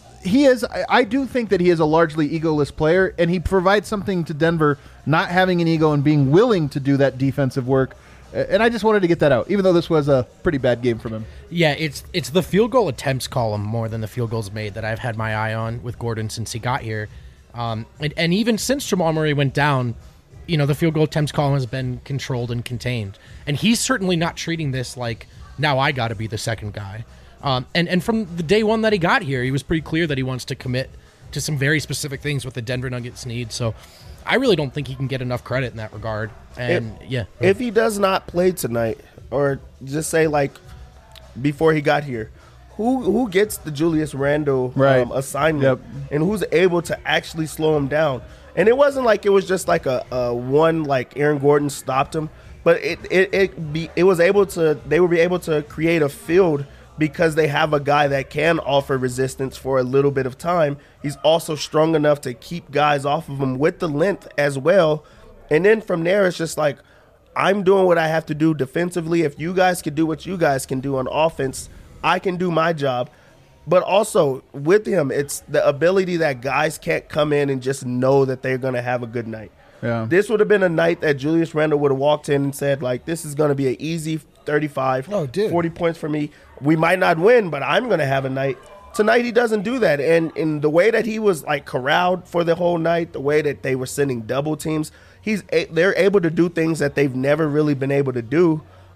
I do think that he is a largely egoless player, and he provides something to Denver, not having an ego and being willing to do that defensive work. And I just wanted to get that out, even though this was a pretty bad game from him. Yeah, it's the field goal attempts column more than the field goals made that I've had my eye on with Gordon since he got here. And even since Jamal Murray went down, the field goal attempts column has been controlled and contained. And he's certainly not treating this like, now I got to be the second guy. And from the day one that he got here, he was pretty clear that he wants to commit to some very specific things what the Denver Nuggets need. So I really don't think he can get enough credit in that regard. And if he does not play tonight, or just say like before he got here, who gets the Julius Randle assignment, and who's able to actually slow him down? And it wasn't like it was just like a one like Aaron Gordon stopped him, but it was able to, they would be able to create a field because they have a guy that can offer resistance for a little bit of time. He's also strong enough to keep guys off of him with the length as well. And then from there, it's just like, I'm doing what I have to do defensively. If you guys can do what you guys can do on offense, I can do my job. But also with him, it's the ability that guys can't come in and just know that they're going to have a good night. Yeah. This would have been a night that Julius Randle would have walked in and said, like, this is going to be an easy 35, 40 points for me. We might not win, but I'm going to have a night. Tonight he doesn't do that. And in the way that he was, like, corralled for the whole night, the way that they were sending double teams, they're able to do things that they've never really been able to do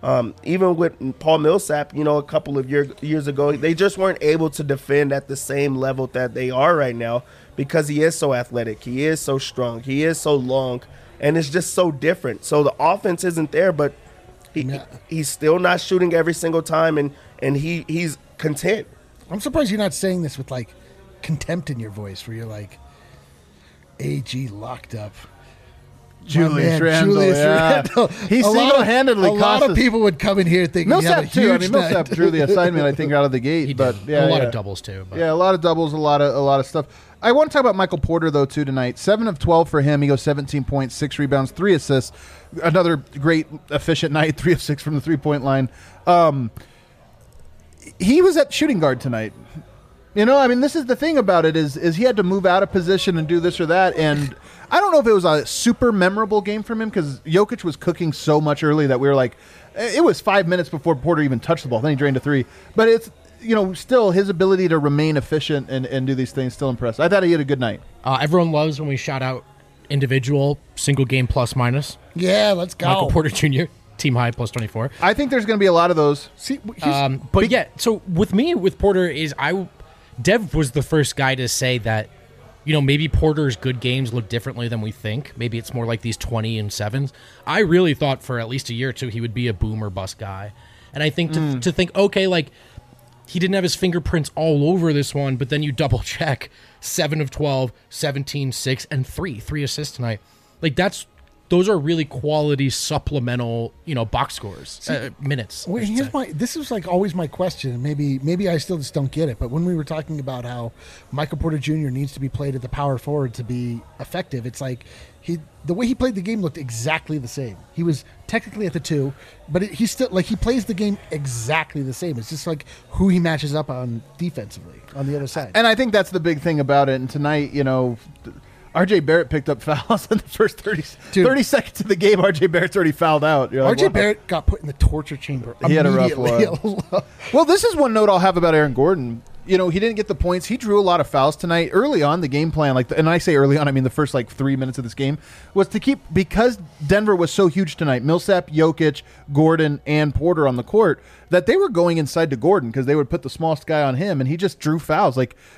Even with Paul Millsap, a couple of years ago, they just weren't able to defend at the same level that they are right now because he is so athletic. He is so strong. He is so long. And it's just so different. So the offense isn't there, but he's still not shooting every single time, and he's content. I'm surprised you're not saying this with, like, contempt in your voice where you're like, AG locked up. Julius Randle. He single-handedly A lot of people would come in here thinking Millsap too. I mean, Millsap drew the assignment, I think, out of the gate. He but did. A lot of doubles too. But. Yeah, a lot of doubles, a lot of stuff. I want to talk about Michael Porter though too tonight. 7 of 12 for him. He goes 17 points, 6 rebounds, 3 assists. Another great efficient night. 3 of 6 from the 3-point line. He was at shooting guard tonight. I mean, this is the thing about it is he had to move out of position and do this or that. And I don't know if it was a super memorable game from him because Jokic was cooking so much early that we were like, it was 5 minutes before Porter even touched the ball. Then he drained a 3. But it's, still his ability to remain efficient and do these things still impressive. I thought he had a good night. Everyone loves when we shout out individual single game plus minus. Yeah, let's go. Michael Porter Jr., team high plus 24. I think there's going to be a lot of those. See, so with Porter is Dev was the first guy to say that, maybe Porter's good games look differently than we think. Maybe it's more like these 20 and 7s. I really thought for at least a year or two he would be a boom or bust guy. And I think to think, okay, like he didn't have his fingerprints all over this one, but then you double check 7 of 12, 17, 6, and 3 assists tonight. Like those are really quality supplemental, box scores, minutes. Well, this is like always my question. Maybe I still just don't get it. But when we were talking about how Michael Porter Jr. needs to be played at the power forward to be effective, it's like the way he played the game looked exactly the same. He was technically at the 2, but he still he plays the game exactly the same. It's just like who he matches up on defensively on the other side. And I think that's the big thing about it. And tonight, RJ Barrett picked up fouls in the first 30 seconds of the game. RJ Barrett's already fouled out. RJ Barrett got put in the torture chamber. He had a rough one. Well, this is one note I'll have about Aaron Gordon. He didn't get the points. He drew a lot of fouls tonight. Early on, the game plan, and I say early on, I mean the first 3 minutes of this game, was to keep, because Denver was so huge tonight, Millsap, Jokic, Gordon, and Porter on the court, that they were going inside to Gordon because they would put the smallest guy on him, and he just drew fouls.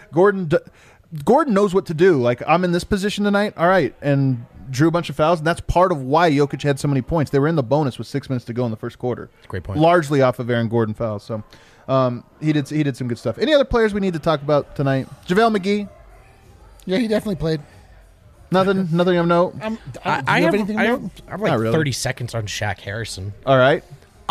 Gordon knows what to do. I'm in this position tonight. All right. And drew a bunch of fouls. And that's part of why Jokic had so many points. They were in the bonus with 6 minutes to go in the first quarter. Great point. Largely off of Aaron Gordon fouls. So he did some good stuff. Any other players we need to talk about tonight? JaVale McGee. Yeah, he definitely played. Nothing of note. I have like really. 30 seconds on Shaq Harrison. All right.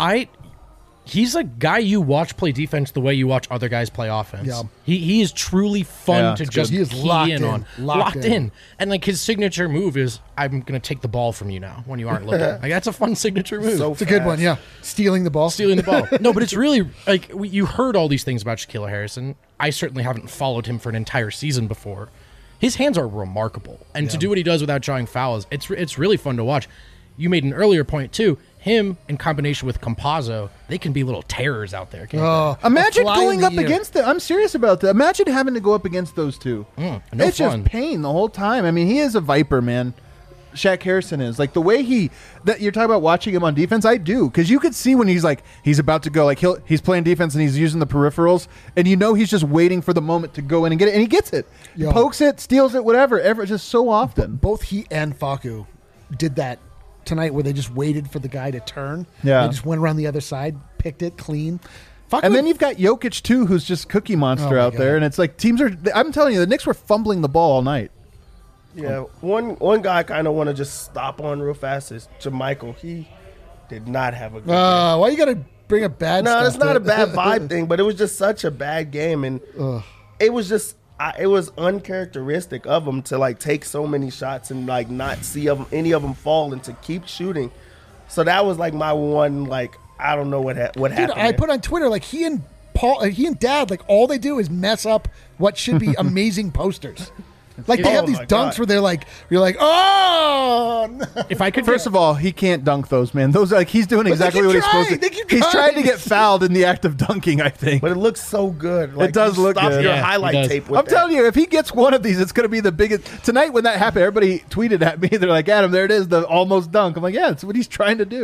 He's a guy you watch play defense the way you watch other guys play offense. Yeah. He is truly fun to just key in on. Locked in. And his signature move is, I'm going to take the ball from you now when you aren't looking. That's a fun signature move. It's a good one, yeah. Stealing the ball. No, but it's really, you heard all these things about Shaquille Harrison. I certainly haven't followed him for an entire season before. His hands are remarkable. And to do what he does without drawing fouls, it's really fun to watch. You made an earlier point, too. Him in combination with Campazzo, they can be little terrors out there. Imagine going up against them. I'm serious about that. Imagine having to go up against those two. It's just pain the whole time. I mean, he is a viper, man. Shaq Harrison is the way that you're talking about watching him on defense. I do, because you could see when he's about to go, he's playing defense and he's using the peripherals, and he's just waiting for the moment to go in and get it, and he gets it, pokes it, steals it, whatever. Just so often. Both he and Facu did that tonight, where they just waited for the guy to turn. Yeah, they just went around the other side, picked it clean. And then you've got Jokic too, who's just cookie monster out there, and it's teams are. I'm telling you, the Knicks were fumbling the ball all night. Yeah, one guy I kind of want to just stop on real fast is JaMychal. He did not have a good game. Why you got to bring a bad stuff? No, it's not a bad vibe thing, but it was just such a bad game, and it was just it was uncharacteristic of him to take so many shots and not see any of them fall and to keep shooting. So that was my one I don't know what happened. Dude, I put on Twitter he and Dad all they do is mess up what should be amazing posters. They have these dunks where you're like, oh! No. If I could, first of all, he can't dunk those, man. Those he's doing exactly what he's supposed to. He's trying to get fouled in the act of dunking, I think. But it looks so good. It does look good. Your highlight tape. I'm telling you, if he gets one of these, it's going to be the biggest. Tonight when that happened, everybody tweeted at me. They're like, Adam, there it is, the almost dunk. I'm like, yeah, it's what he's trying to do.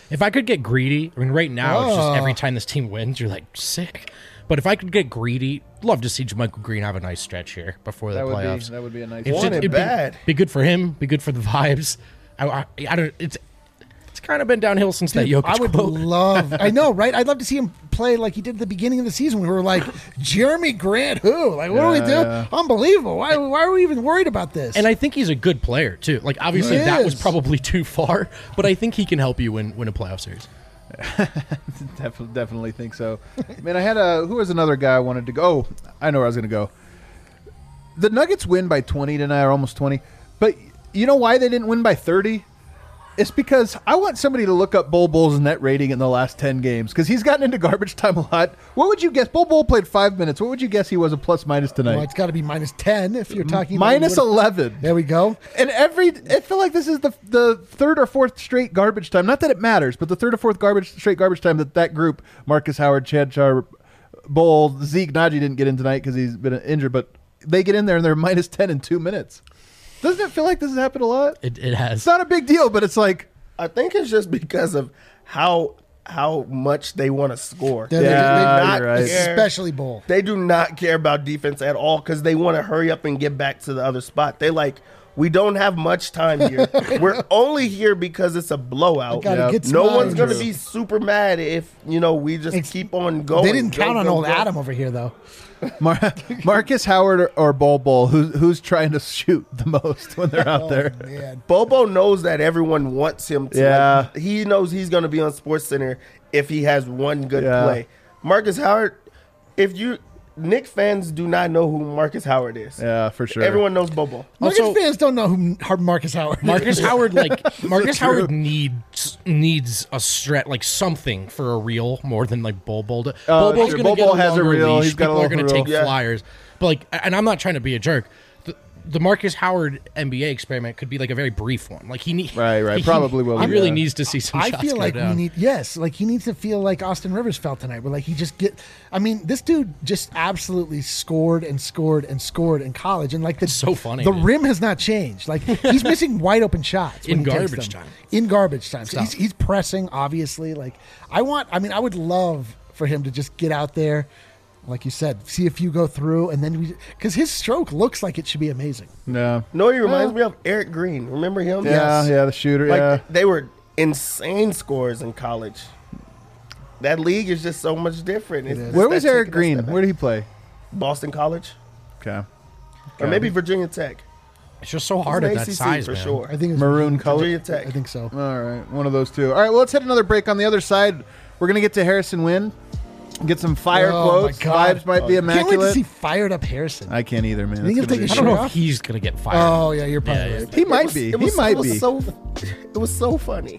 If I could get greedy, I mean, right now it's just every time this team wins, you're like sick. But if I could get greedy, love to see JaMychal Green have a nice stretch here before the playoffs. That would be a nice. It's Want it it'd bad. Be good for him. Be good for the vibes. I don't. It's kind of been downhill since that Jokic I would quote. love. I know, right? I'd love to see him play like he did at the beginning of the season. We were like, Jeremy Grant, who? Like, what do we do? Yeah. Unbelievable. Why are we even worried about this? And I think he's a good player too. Like obviously He that was is. probably too far, but I think he can help you win a playoff series. Definitely think so. Man, I had who was another guy I wanted to go? Oh, I know where I was going to go. The Nuggets win by 20 tonight, or almost 20. But you know why they didn't win by 30? It's because I want somebody to look up Bol Bol's net rating in the last 10 games because he's gotten into garbage time a lot. What would you guess? Bol Bol played 5 minutes. What would you guess he was a plus minus tonight? Well, it's got to be -10 if you're talking Minus about 11. There we go. And I feel like this is the third or fourth straight garbage time. Not that it matters, but the third or fourth straight garbage time that group, Marcus Howard, Chad Char, Bol, Zeke, Najee didn't get in tonight because he's been injured, but they get in there and they're -10 in 2 minutes. Doesn't it feel like this has happened a lot? It has. It's not a big deal, but it's like, I think it's just because of how much they want to score. They're Yeah, not, you're right. especially Bull. They do not care about defense at all because they want to hurry up and get back to the other spot. They like, we don't have much time here. We're only here because it's a blowout. Gotta get some No one's going to Andrew. be super mad if, we just keep on going. They didn't count on old go. Adam over here, though. Marcus Howard or Bol, who's trying to shoot the most when they're out there? Man. Bobo knows that everyone wants him to. Yeah. He knows he's going to be on SportsCenter if he has one good Yeah. play. Marcus Howard, Knicks fans do not know who Marcus Howard is. Yeah, for sure. Everyone knows Bobo. Nuggets Also- fans don't know who Marcus Howard is. Marcus Howard, Marcus true. Howard needs a strat, like something for a reel more than like Bol Bol. Bol Bol's sure. gonna Bol get Bol a has a longer reel. leash. He's got a People are longer gonna take reel. Yeah. flyers, but like, and I'm not trying to be a jerk. The Marcus Howard NBA experiment could be like a very brief one. Like Right. Probably will He be, really yeah. needs to see some I shots feel go like down. he needs to feel like Austin Rivers felt tonight, where like he just this dude just absolutely scored and scored and scored in college, and like the so funny, The man. rim has not changed. Like he's missing wide open shots when In he takes garbage them. time. In garbage time, so Tough. he's pressing obviously. Like I would love for him to just get out there. Like you said, see if you go through, and then because his stroke looks like it should be amazing. Yeah. No, he reminds me of Eric Green. Remember him? Yeah, the shooter. Like they were insane scores in college. That league is just so much different. It's Where that was Eric taking a Green? step back. Where did he play? Boston College, Okay. or maybe Virginia Tech. It's just so He's hard an at that ACC size, for man. sure. I think it's Maroon color. Virginia Tech. I think so. All right, one of those two. All right, well, let's hit another break. On the other side, we're going to get to Harrison Wynn, get some fire Oh, quotes. my God. Vibes might be Can't wait to immaculate. see fired up Harrison. I can't either, man. think It's he'll gonna take be a I don't shirt know off? if he's gonna get fired. Oh yeah, you're probably Yeah, right. He might be. He might be. It was so funny.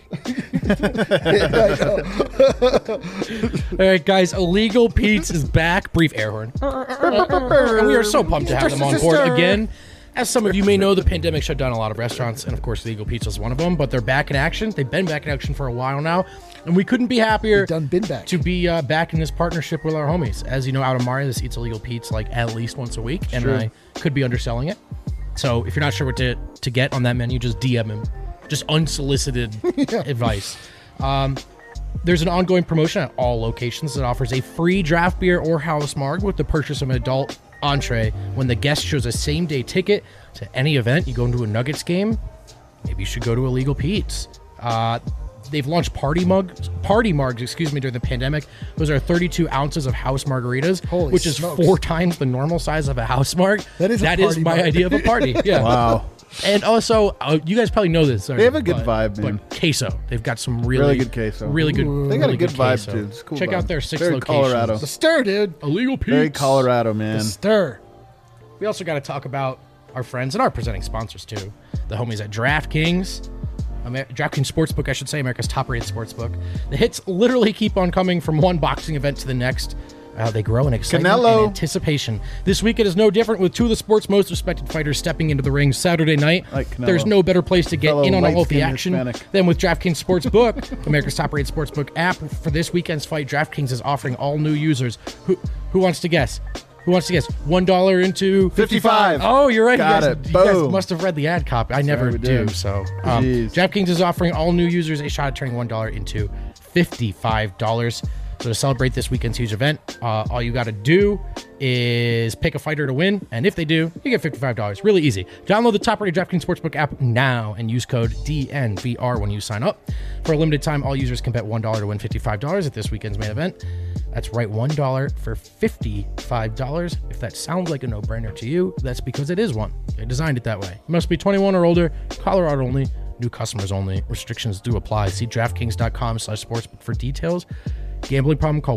All right, guys. Illegal Pete's is back. Brief air horn. And we are so pumped to have them on board again. As some of you may know, the pandemic shut down a lot of restaurants, and of course, Illegal Pizza is one of them. But they're back in action. They've been back in action for a while now, and we couldn't be happier Been back. to be back in this partnership with our homies. As you know, out of Mario, this eats Illegal Pete's like at least once a week, and I could be underselling it. So if you're not sure what to get on that menu, just DM him. Just unsolicited advice. There's an ongoing promotion at all locations that offers a free draft beer or house marg with the purchase of an adult entree when the guest shows a same-day ticket to any event. You go into a Nuggets game, maybe you should go to Illegal Pete's. They've launched party margs, during the pandemic. Those are 32 ounces of house margaritas, Holy which is smokes. 4 times the normal size of a house marg. That is a That is party my marg. idea of a party. Yeah. Wow. And also, you guys probably know this. They have a good vibe, man. But queso, they've got some really, Really good queso. Really good. They got really a good vibe, queso. too. It's a cool Check vibe. out their 6 Very locations. Colorado. The stir, dude. Illegal Pete's. Very Colorado, man. The stir. We also got to talk about our friends and our presenting sponsors too. The homies at DraftKings. DraftKings Sportsbook, I should say, America's top-rated sportsbook. The hits literally keep on coming from one boxing event to the next. They grow in excitement Canelo. and anticipation. This weekend is no different, with 2 of the sport's most respected fighters stepping into the ring Saturday night. Like Canelo. There's no better place to get Fellow in on all of the light-skinned action Hispanic. than with DraftKings Sportsbook, America's top-rated sportsbook app. For this weekend's fight, DraftKings is offering all new users. Who wants to guess? Who wants to guess? $1 into 55. Oh, you're right. Got you it. guys, you guys Boom. must have read the ad copy. I never we do. did. So, Jeez. DraftKings is offering all new users a shot at turning $1 into $55. So to celebrate this weekend's huge event, all you got to do is pick a fighter to win, and if they do, you get $55. Really easy. Download the top-rated DraftKings Sportsbook app now and use code DNVR when you sign up. For a limited time, all users can bet $1 to win $55 at this weekend's main event. That's right, $1 for $55. If that sounds like a no-brainer to you, that's because it is one. They designed it that way. You must be 21 or older, Colorado only, new customers only. Restrictions do apply. See DraftKings.com/sportsbook for details. Gambling problem, call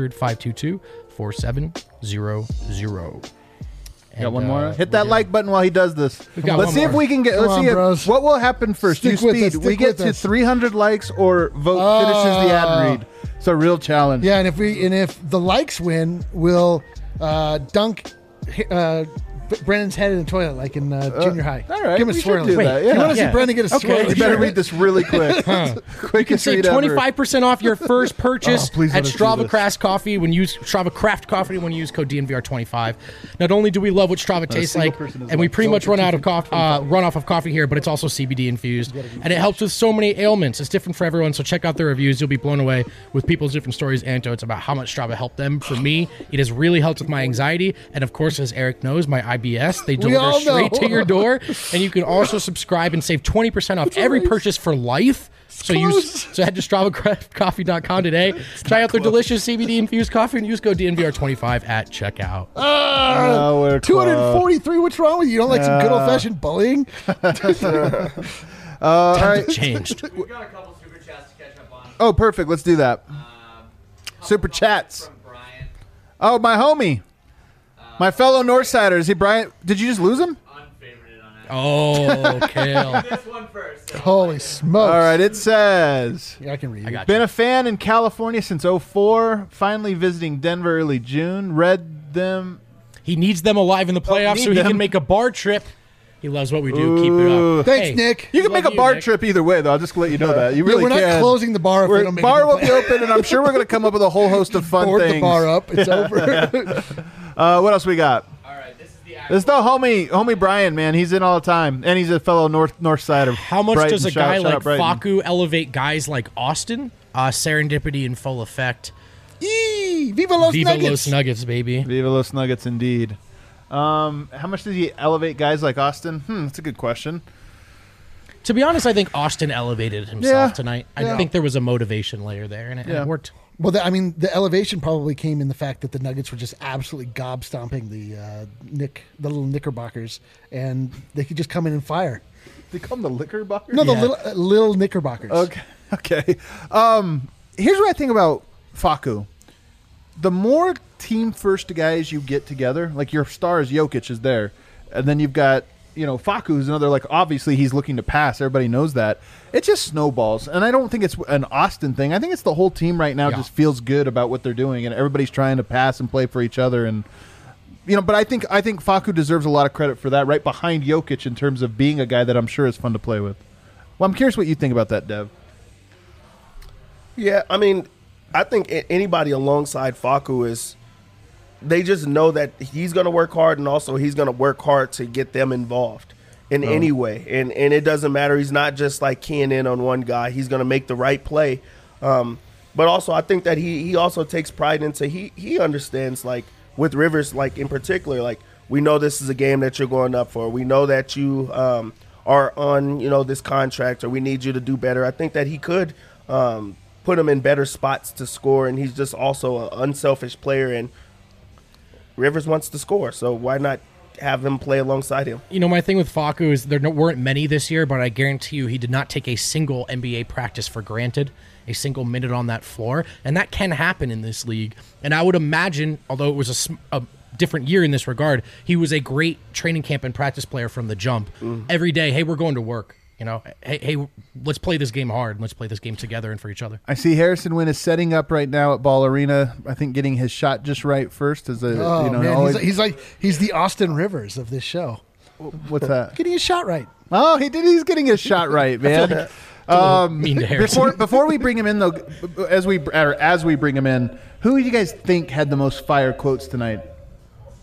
1-800-522-4700. Got one more. Hit that like button while he does this. got Let's one see if more. we can get. Come Let's on, see bros. what will happen first. Stick You with speed. us, We stick get with to us. 300 likes or vote finishes the ad read. It's a real challenge. Yeah, and if the likes win, we'll dunk Brennan's head in the toilet like in junior high. all right, Give him a we should swirl. do that, yeah. You want to Yeah. see Brennan get a Okay. swirl? You better read this really quick. Quickest Save read ever. 25% off your first purchase Oh, please at let us do Strava this. Craft Coffee when you use Strava Craft Coffee when you use code DNVR25. Not only do we love what Strava tastes single like, person is and we like pretty much sold run for out of run off of coffee here, but it's also CBD infused, and it helps with so many ailments. It's different for everyone, so check out the reviews. You'll be blown away with people's different stories, anecdotes about how much Strava helped them. For me, it has really helped with my anxiety, and of course, as Eric knows, my IBS. They deliver all straight know. to your door, and you can also subscribe and save 20% off every purchase for life. So head to StravaCraftCoffee.com today. Try out their delicious CBD infused coffee and use code DNVR25 at checkout. Oh, we're 243. What's wrong with you? You don't like some good old fashioned bullying? all right. Changed. We've got a couple super chats to catch up on. Oh, perfect. Let's do that. Super Couple chats. From Brian. Oh, my homie. My fellow Northsider. Is he Brian? Did you just lose him? Unfavorited on that. Oh, Kale. This one first. Holy smokes. All right. It says, Yeah, I can read it. I got been a fan in California since 04. Finally visiting Denver early June. Read them. He needs them alive in the playoffs need so he them. can make a bar trip. He loves what we do. Keep it up. Thanks, Hey, Nick. You can Love make a you, bar Nick. trip either way, though. I'll just let you know that. You Yeah, really we're not can. closing the bar if we don't make Bar it will to be open, and I'm sure we're going to come up with a whole host of fun board things. the bar up. It's over. What else we got? All right, this is the This is the homie Brian, man. He's in all the time, and he's a fellow North Sider. How much Brighton. does a Shout guy out like Brighton. Faku elevate guys like Austin? Serendipity in full effect. Eee, Viva Los Viva Nuggets. Los Nuggets, baby. Viva Los Nuggets, indeed. How much does he elevate guys like Austin? That's a good question. To be honest, I think Austin elevated himself Yeah. tonight. I Yeah. think there was a motivation layer there, and it worked. Well, the elevation probably came in the fact that the Nuggets were just absolutely gob stomping the little Knickerbockers, and they could just come in and fire. They call him the liquor boxer? No, the Yeah. little Knickerbockers. Okay. Okay. Here's what I think about Faku. The more team first guys you get together, like your star is Jokic is there, and then you've got Faku's another, like, obviously he's looking to pass. Everybody knows that. It just snowballs. And I don't think it's an Austin thing. I think it's the whole team right now just feels good about what they're doing, and everybody's trying to pass and play for each other. And but I think Faku deserves a lot of credit for that, right behind Jokic in terms of being a guy that I'm sure is fun to play with. Well, I'm curious what you think about that, Dev. Yeah, I mean, I think anybody alongside Faku is, they just know that he's going to work hard, and also he's going to work hard to get them involved in any way. And it doesn't matter. He's not just like keying in on one guy. He's going to make the right play. But also, I think that he also takes pride into, he understands, like, with Rivers, like, in particular, like, we know this is a game that you're going up for. We know that you are on, this contract, or we need you to do better. I think that he could put him in better spots to score, and he's just also an unselfish player, and Rivers wants to score, so why not have him play alongside him? My thing with Faku is there weren't many this year, but I guarantee you he did not take a single NBA practice for granted, a single minute on that floor, and that can happen in this league. And I would imagine, although it was a different year in this regard, he was a great training camp and practice player from the jump. Every day, hey, we're going to work. Hey, let's play this game hard. And let's play this game together and for each other. I see Harrison Wynn is setting up right now at Ball Arena. I think getting his shot just right first is Man, always, he's the Austin Rivers of this show. what's that? Getting his shot right. Oh, he's getting his shot right, man. Mean to Harrison. Before we bring him in though, as we bring him in, who do you guys think had the most fire quotes tonight?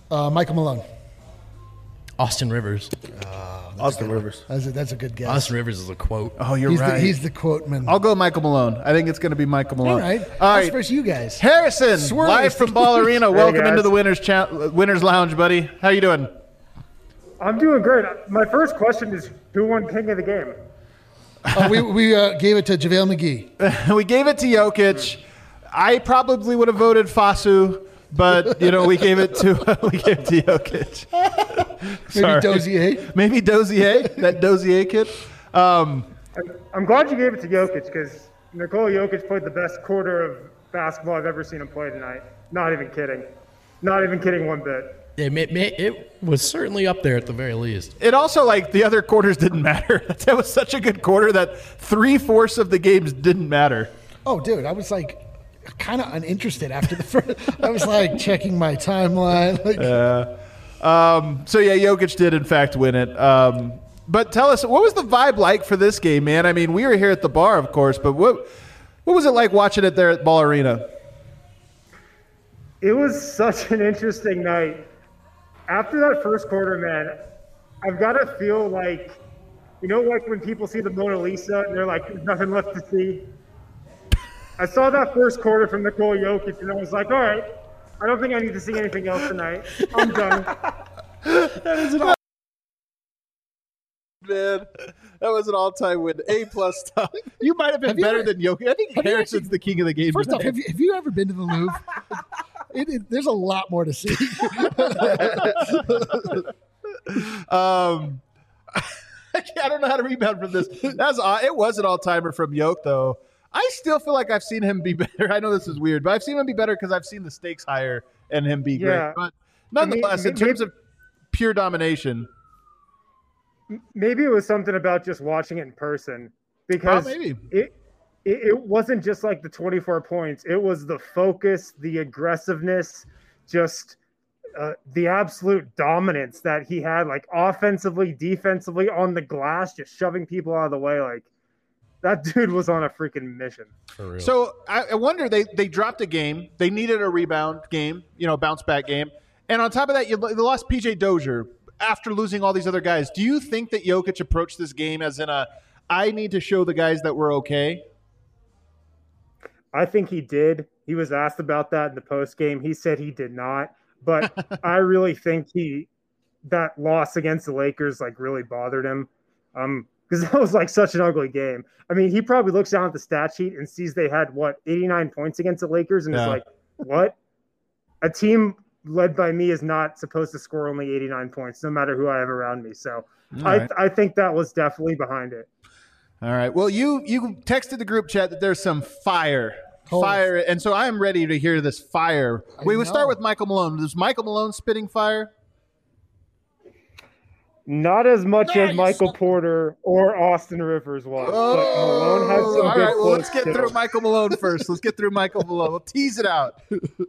Michael Malone. Austin Rivers. Austin Rivers. That's a good guess. Austin Rivers is a quote. Oh, you're He's right. he's the quote man. I'll go Michael Malone. I think it's going to be Michael Malone. All right. All That's right. versus you guys. Harrison, Swirly. live from Ball Arena. Welcome guys. into the Winners Lounge, buddy. How you doing? I'm doing great. My first question is, who won King of the Game? We gave it to JaVale McGee. We gave it to Jokic. I probably would have voted Fasu, but we gave it to Jokic. Maybe Dozier. Maybe Dozier, that Dozier kid. I'm glad you gave it to Jokic because Nikola Jokic played the best quarter of basketball I've ever seen him play tonight. Not even kidding. Not even kidding one bit. It was certainly up there at the very least. It also, the other quarters didn't matter. That was such a good quarter that 3/4 of the games didn't matter. Oh, dude, I was kind of uninterested after the first. I was checking my timeline. Jokic did in fact win it. But tell us, what was the vibe like for this game, man? I mean, we were here at the bar, of course, but what was it like watching it there at Ball Arena? It was such an interesting night. After that first quarter, man, I've got to feel like when people see the Mona Lisa and they're like, there's nothing left to see. I saw that first quarter from Nikola Jokic, and I was like, all right, I don't think I need to see anything else tonight. I'm done. That is man. That was an all-time win. A-plus stuff. You might have been better than Jokic. I think Harrison's the king of the game. First off, have you ever been to the Louvre? There's a lot more to see. I don't know how to rebound from this. It was an all-timer from Yoke, though. I still feel like I've seen him be better. I know this is weird, but I've seen him be better because I've seen the stakes higher and him be great. But nonetheless, in terms of pure domination. Maybe it was something about just watching it in person because it wasn't just like the 24 points. It was the focus, the aggressiveness, just the absolute dominance that he had, offensively, defensively, on the glass, just shoving people out of the way. That dude was on a freaking mission. For real. So I wonder, they dropped a game. They needed a rebound game, bounce back game. And on top of that, they lost PJ Dozier after losing all these other guys. Do you think that Jokic approached this game as in I need to show the guys that we're okay? I think he did. He was asked about that in the post game. He said he did not. But I really think that loss against the Lakers really bothered him. Because that was such an ugly game. I mean, he probably looks down at the stat sheet and sees they had 89 points against the Lakers, and is like, what? A team led by me is not supposed to score only 89 points, no matter who I have around me. So I think that was definitely behind it. All right. Well, you texted the group chat that there's some fire, and so I am ready to hear this fire. We'll start with Michael Malone. Is Michael Malone spitting fire? Not as much as Michael Porter or Austin Rivers was. But Malone had some good Well, let's get through Michael Malone first. Let's get through Michael Malone. We'll tease it out.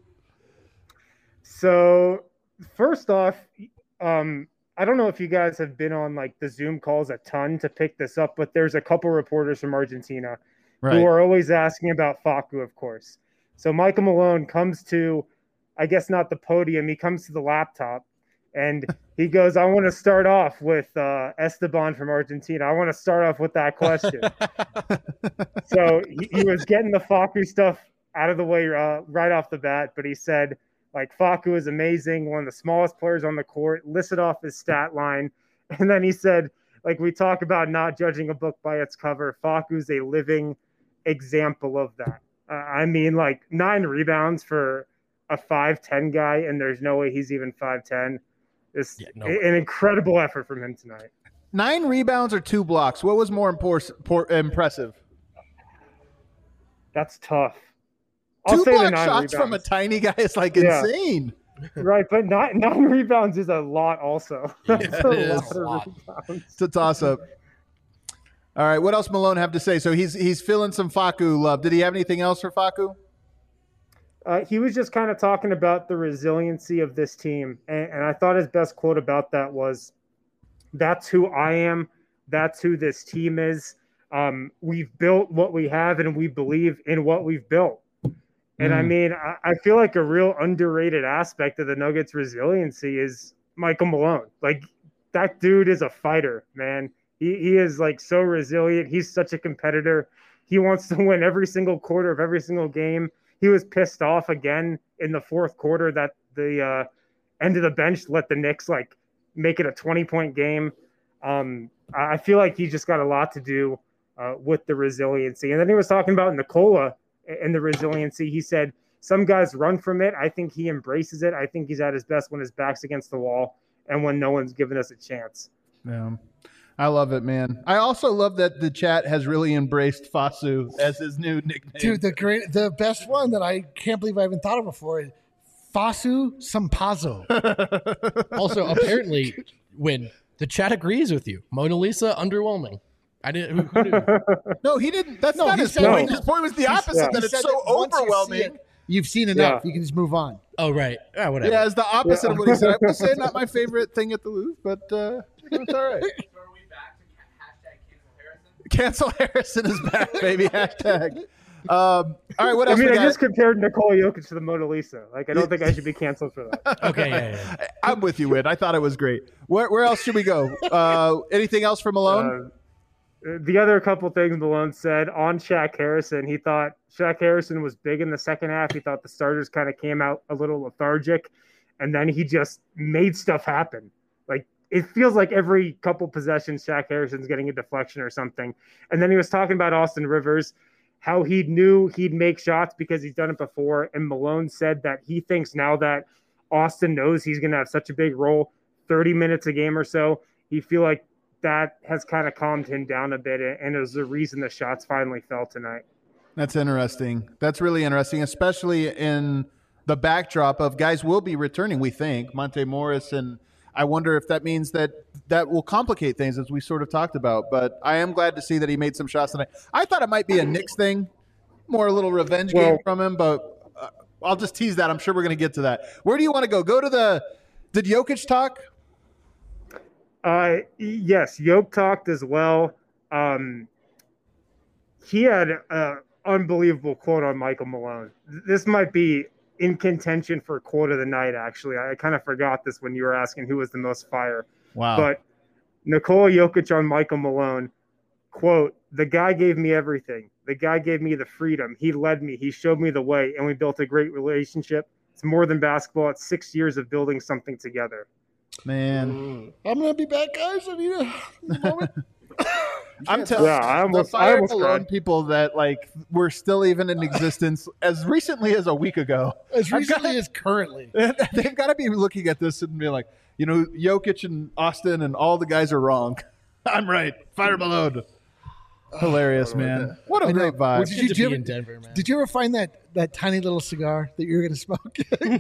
So, first off, I don't know if you guys have been on the Zoom calls a ton to pick this up, but there's a couple reporters from Argentina who are always asking about Facu, of course. So Michael Malone comes to, I guess not the podium, he comes to the laptop, and he goes, I want to start off with Esteban from Argentina. I want to start off with that question. So he was getting the Facu stuff out of the way right off the bat, but he said, Facu is amazing, one of the smallest players on the court, listed off his stat line. And then he said, we talk about not judging a book by its cover, Facu's a living example of that. 9 rebounds for a 5'10" guy, and there's no way he's even 5'10". It's an incredible effort from him tonight. 9 rebounds or 2 blocks? What was more impressive? That's tough. 2 block shots from a tiny guy is insane. Right, but 9 rebounds is a lot also. That's a lot of rebounds. It's a toss-up. All right, what else Malone have to say? So he's feeling some Facu love. Did he have anything else for Facu? He was just kind of talking about the resiliency of this team. And I thought his best quote about that was, that's who I am. That's who this team is. We've built what we have, and we believe in what we've built. And I mean, I feel like a real underrated aspect of the Nuggets' resiliency is Michael Malone. Like, that dude is a fighter, man. He is like so resilient. He's such a competitor. He wants to win every single quarter of every single game. He was pissed off again in the fourth quarter that the end of the bench let the Knicks like make it a 20-point game. I feel like he just got a lot to do with the resiliency. And then he was talking about Nikola and the resiliency. He said some guys run from it. I think he embraces it. I think he's at his best when his back's against the wall and when no one's giving us a chance. Yeah. I love it, man. I also love that the chat has really embraced Fasu as his new nickname. Dude, the best one that I can't believe I haven't thought of before is Fasu Sampazo. Also, apparently, when the chat agrees with you, Mona Lisa underwhelming. I didn't. Who knew? No, he didn't. That's not his said- point. no. His point was the opposite. That He it's said so that once you see overwhelming. it, you've seen enough. Yeah. You can just move on. Oh right. Yeah, whatever. Yeah, it's the opposite of what he said. I would say not my favorite thing at the Louvre, but it's all right. So are we back to hashtag cancel Harrison? Cancel Harrison is back, baby. Hashtag. All right, what I else mean, we I got? just compared Nikola Jokic to the Mona Lisa. Like, I don't think I should be canceled for that. Okay. Yeah. I'm with you, Wid. I thought it was great. Where else should we go? Anything else from Malone? The other couple things Malone said on Shaq Harrison, he thought Shaq Harrison was big in the second half. He thought the starters kind of came out a little lethargic, and then he just made stuff happen. Like, it feels like every couple possessions, Shaq Harrison's getting a deflection or something. And then he was talking about Austin Rivers, how he knew he'd make shots because he's done it before. And Malone said that he thinks now that Austin knows he's going to have such a big role, 30 minutes a game or so, he feel like that has kind of calmed him down a bit, and it was the reason the shots finally fell tonight. That's interesting. That's really interesting, especially in the backdrop of guys will be returning, we think. Monte Morris, and I wonder if that means that will complicate things, as we sort of talked about. But I am glad to see that he made some shots tonight. I thought it might be a Knicks thing, more a little revenge game from him, but I'll just tease that. I'm sure we're going to get to that. Where do you want to go? Go to did Jokic talk? Yes, Yoke talked as well. He had an unbelievable quote on Michael Malone. This might be in contention for quote of the night, actually. I kind of forgot this when you were asking who was the most fire. Wow. But Nikola Jokic on Michael Malone, quote, "The guy gave me everything. The guy gave me the freedom. He led me. He showed me the way, and we built a great relationship. It's more than basketball. It's 6 years of building something together." Man. I'm going to be back, guys. I need a moment. I'm telling Yeah, I the almost Fire Malone cried. people that like were still even in existence as recently as a week ago. As recently as currently. They've got to be looking at this and be like, Jokic and Austin and all the guys are wrong. I'm right. Fire Malone. Hilarious, man. What a great vibe. Did you Good to ever- be in Denver, man. Did you ever find that tiny little cigar that you were going to smoke?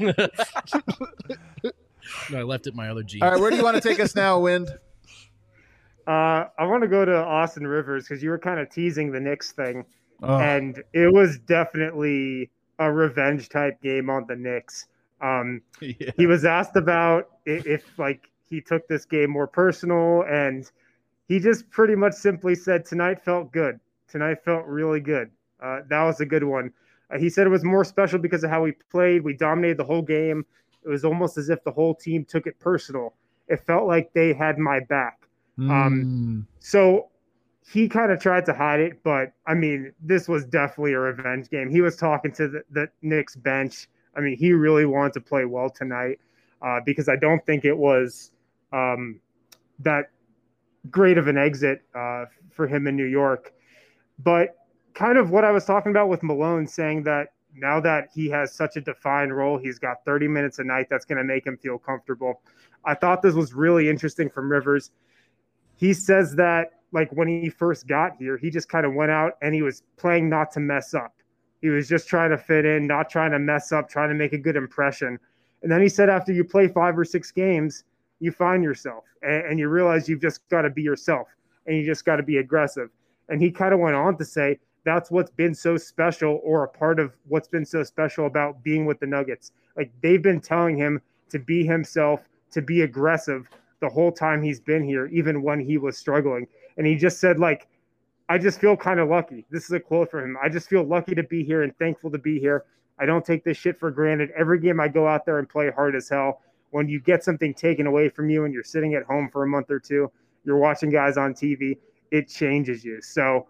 No, I left it in my other jeans. All right, where do you want to take us now, Wind? I want to go to Austin Rivers because you were kind of teasing the Knicks thing. Oh. And it was definitely a revenge type game on the Knicks. Yeah. He was asked about if like he took this game more personal, and he just pretty much simply said, "Tonight felt good. Tonight felt really good. That was a good one." He said it was more special because of how we played. We dominated the whole game. It was almost as if the whole team took it personal. It felt like they had my back. So he kind of tried to hide it, but I mean, this was definitely a revenge game. He was talking to the Knicks bench. I mean, he really wanted to play well tonight because I don't think it was that great of an exit for him in New York. But kind of what I was talking about with Malone, saying that now that he has such a defined role, he's got 30 minutes a night, that's going to make him feel comfortable. I thought this was really interesting from Rivers. He says that, like, when he first got here, he just kind of went out and he was playing not to mess up. He was just trying to fit in, not trying to mess up, trying to make a good impression. And then he said after you play 5 or 6 games, you find yourself and you realize you've just got to be yourself and you just got to be aggressive. And he kind of went on to say that's what's been so special, or a part of what's been so special about being with the Nuggets. Like, they've been telling him to be himself, to be aggressive the whole time he's been here, even when he was struggling. And he just said, like, I just feel kind of lucky. This is a quote from him. "I just feel lucky to be here and thankful to be here. I don't take this shit for granted. Every game I go out there and play hard as hell. When you get something taken away from you and you're sitting at home for a month or two, you're watching guys on TV, it changes you. So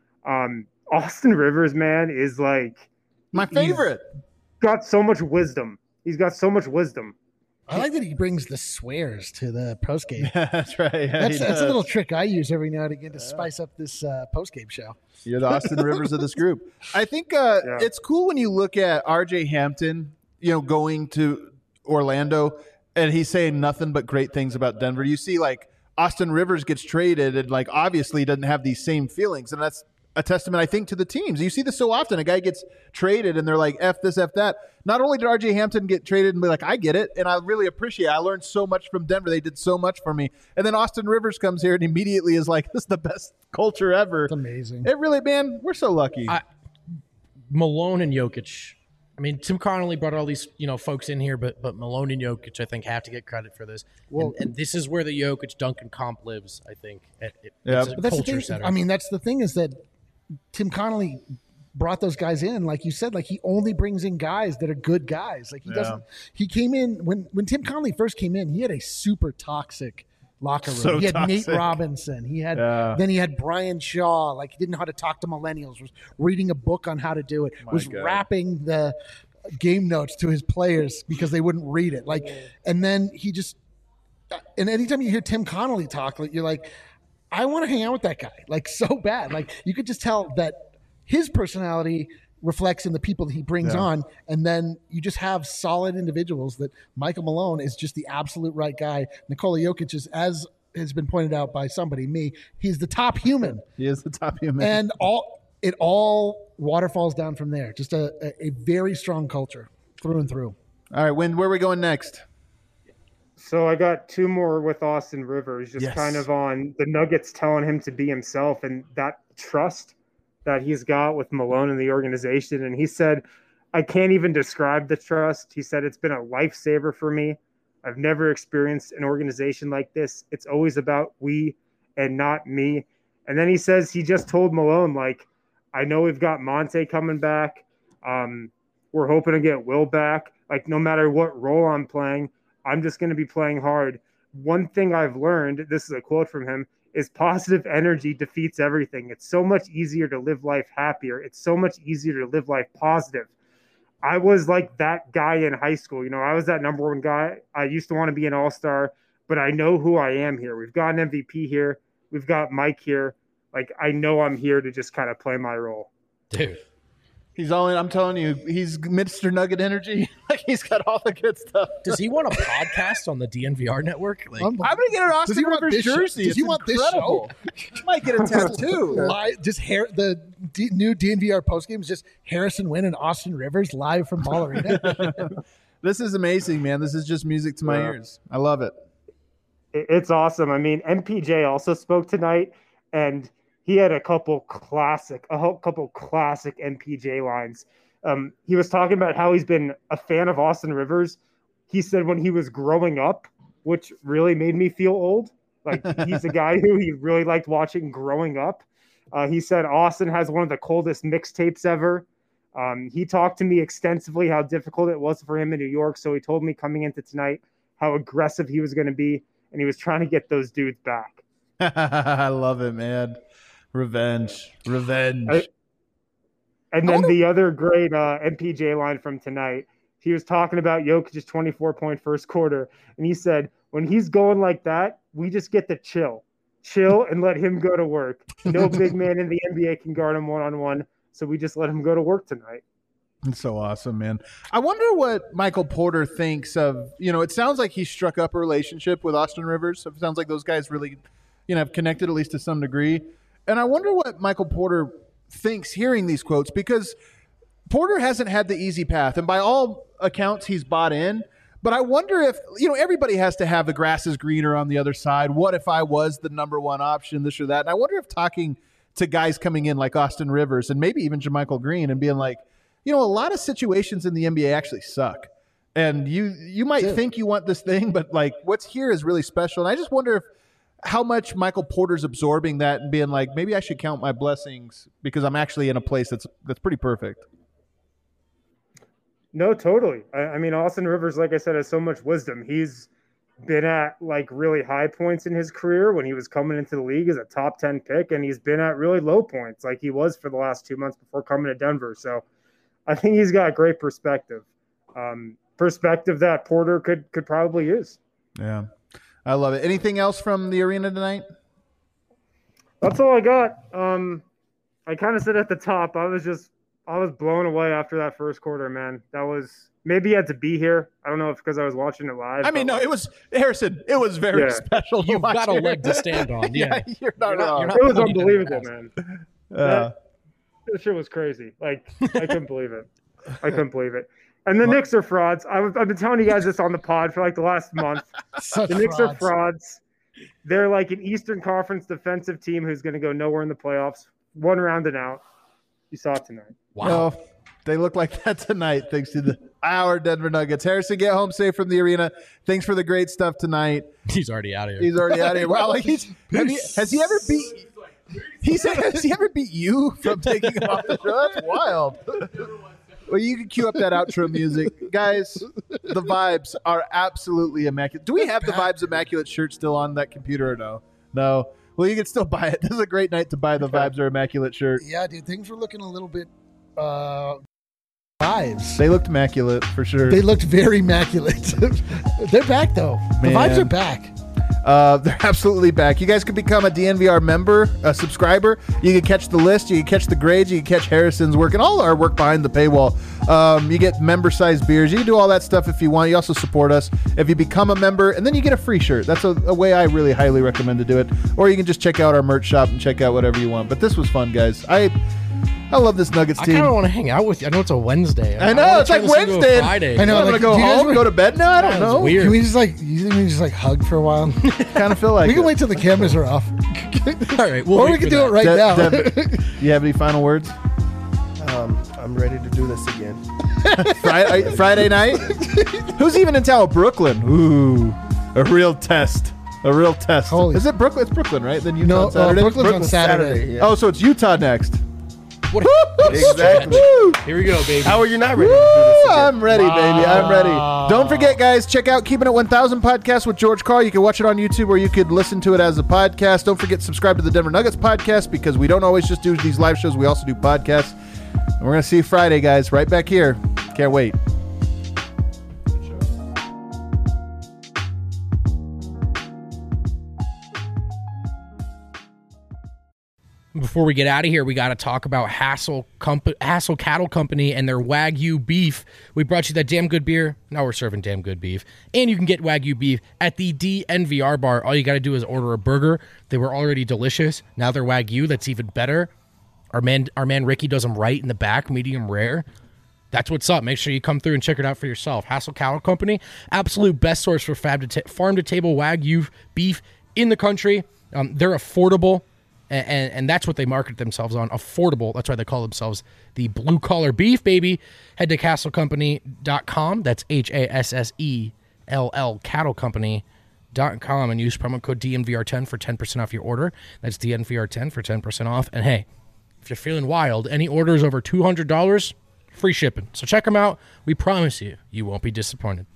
Austin Rivers, man, is like my favorite. Got so much wisdom. He's got so much wisdom. I like that he brings the swears to the post game. That's right. Yeah, that's a little trick I use every now and again to spice up this post game show. You're the Austin Rivers of this group. I think it's cool when you look at R.J. Hampton, going to Orlando, and he's saying nothing but great things about Denver. You see, like, Austin Rivers gets traded and, like, obviously doesn't have these same feelings, and that's a testament, I think, to the teams. You see this so often. A guy gets traded and they're like, F this, F that. Not only did R.J. Hampton get traded and be like, I get it, and I really appreciate it. I learned so much from Denver. They did so much for me. And then Austin Rivers comes here and immediately is like, this is the best culture ever. It's amazing. It really, man, we're so lucky. Malone and Jokic. I mean, Tim Connolly brought all these, folks in here, but Malone and Jokic, I think, have to get credit for this. Well, and this is where the Jokic-Duncan comp lives, I think. It's a culture setter. I mean, that's the thing is that Tim Connolly brought those guys in, like you said, like he only brings in guys that are good guys. Like he doesn't. He came in when Tim Connolly first came in. He had a super toxic locker room. So he had toxic. Nate Robinson. He had then he had Brian Shaw. Like he didn't know how to talk to millennials. Was reading a book on how to do it. Was rapping the game notes to his players because they wouldn't read it. Like, and then he just. And anytime you hear Tim Connolly talk, like you're like, I want to hang out with that guy, like so bad. Like you could just tell that his personality reflects in the people that he brings on, and then you just have solid individuals. That Michael Malone is just the absolute right guy. Nikola Jokic is, as has been pointed out by somebody, me, he's the top human. He is the top human, and it all waterfalls down from there. Just a very strong culture through and through. All right, where are we going next? So I got two more with Austin Rivers, just kind of on the Nuggets telling him to be himself and that trust that he's got with Malone and the organization. And he said, I can't even describe the trust. He said, it's been a lifesaver for me. I've never experienced an organization like this. It's always about we and not me. And then he says he just told Malone, like, I know we've got Monte coming back. We're hoping to get Will back. Like, no matter what role I'm playing, I'm just going to be playing hard. One thing I've learned, this is a quote from him, is positive energy defeats everything. It's so much easier to live life happier. It's so much easier to live life positive. I was like that guy in high school. I was that number one guy. I used to want to be an all-star, but I know who I am here. We've got an MVP here. We've got Mike here. Like, I know I'm here to just kind of play my role. Dude. He's all in. I'm telling you, he's Mr. Nugget Energy. Like he's got all the good stuff. Does he want a podcast on the DNVR network? Like, I'm gonna get an Austin Rivers jersey. Does he want this show? You might get a tattoo. Just new DNVR postgame is just Harrison Wynn and Austin Rivers live from Ball Arena. This is amazing, man. This is just music to my ears. I love it. It's awesome. I mean, MPJ also spoke tonight, and he had a couple classic MPJ lines. He was talking about how he's been a fan of Austin Rivers. He said when he was growing up, which really made me feel old. Like he's a guy who he really liked watching growing up. He said Austin has one of the coldest mixtapes ever. He talked to me extensively how difficult it was for him in New York. So he told me coming into tonight how aggressive he was going to be, and he was trying to get those dudes back. I love it, man. Revenge. And then the other great MPJ line from tonight, he was talking about Jokic's 24-point first quarter, and he said, when he's going like that, we just get to chill and let him go to work. No big man in the NBA can guard him one-on-one, so we just let him go to work tonight. It's so awesome, man. I wonder what Michael Porter thinks of, it sounds like he struck up a relationship with Austin Rivers. It sounds like those guys really, have connected at least to some degree. And I wonder what Michael Porter thinks hearing these quotes, because Porter hasn't had the easy path. And by all accounts, he's bought in. But I wonder if, everybody has to have the grass is greener on the other side. What if I was the number one option, this or that? And I wonder if talking to guys coming in like Austin Rivers and maybe even JaMychal Green and being like, a lot of situations in the NBA actually suck. And you might think you want this thing, but like what's here is really special. And I just wonder how much Michael Porter's absorbing that and being like, maybe I should count my blessings because I'm actually in a place that's pretty perfect. No, totally. I mean, Austin Rivers, like I said, has so much wisdom. He's been at like really high points in his career when he was coming into the league as a top 10 pick, and he's been at really low points like he was for the last 2 months before coming to Denver. So I think he's got great perspective. Perspective that Porter could probably use. Yeah. I love it. Anything else from the arena tonight? That's all I got. I kind of said at the top, I was blown away after that first quarter, man. That was maybe you had to be here. I don't know if because I was watching it live. I mean, no, it was Harrison. It was very special. You've got a leg to stand on. Yeah, you're not wrong. It was unbelievable, man. That shit was crazy. Like I couldn't believe it. And the Knicks are frauds. I've been telling you guys this on the pod for like the last month. The Knicks are frauds. They're like an Eastern Conference defensive team who's going to go nowhere in the playoffs. One round and out. You saw it tonight. Wow. Well, they look like that tonight thanks to our Denver Nuggets. Harrison, get home safe from the arena. Thanks for the great stuff tonight. He's already out of here. Wow, like has he ever beat you from taking him off the show? That's wild. Well, you can cue up that outro music. Guys, the Vibes are absolutely immaculate. Do we have the Vibes Immaculate shirt still on that computer or no? No. Well, you can still buy it. This is a great night to buy the Vibes are Immaculate shirt. Yeah, dude, things were looking a little bit Vibes. They looked immaculate for sure. They looked very immaculate. They're back, though. Man. The Vibes are back. They're absolutely back. You guys can become a DNVR member, a subscriber. You can catch the list. You can catch the grades. You can catch Harrison's work and all our work behind the paywall. You get member-sized beers. You can do all that stuff if you want. You also support us if you become a member, and then you get a free shirt. That's a way I really highly recommend to do it. Or you can just check out our merch shop and check out whatever you want. But this was fun, guys. I love this Nuggets team. I kind of want to hang out with you. I know it's a Wednesday. I know it's like Wednesday. Friday. I know. I'm gonna go home, go to bed now. I don't know. Weird. Can we just like hug for a while? Kind of feel like we can wait till the cameras are off. All right, or we can do it right now. You have any final words? I'm ready to do this again. Friday night? Who's even in town? Brooklyn. Ooh, a real test. Holy. Is it Brooklyn? It's Brooklyn, right? Then Utah on Saturday. Brooklyn's on Saturday. Yeah. Oh, so it's Utah next. Exactly. Here we go, baby. How are you not ready to do this again? I'm ready, baby. I'm ready. Don't forget, guys, check out Keeping It 1000 podcast with George Carl. You can watch it on YouTube or you could listen to it as a podcast. Don't forget to subscribe to the Denver Nuggets podcast because we don't always just do these live shows. We also do podcasts. And we're going to see you Friday, guys, right back here. Can't wait. Before we get out of here, we got to talk about Hassel Cattle Company and their Wagyu beef. We brought you that damn good beer. Now we're serving damn good beef. And you can get Wagyu beef at the DNVR bar. All you got to do is order a burger. They were already delicious. Now they're Wagyu. That's even better. Our man Ricky does them right in the back, medium rare. That's what's up. Make sure you come through and check it out for yourself. Hassel Cattle Company, absolute best source for farm-to-table Wagyu beef in the country. They're affordable. And that's what they market themselves on, affordable. That's why they call themselves the blue collar beef, baby. Head to castlecompany.com. That's HASSELL cattlecompany.com and use promo code DNVR10 for 10% off your order. That's DNVR10 for 10% off. And hey, if you're feeling wild, any orders over $200, free shipping. So check them out. We promise you, you won't be disappointed.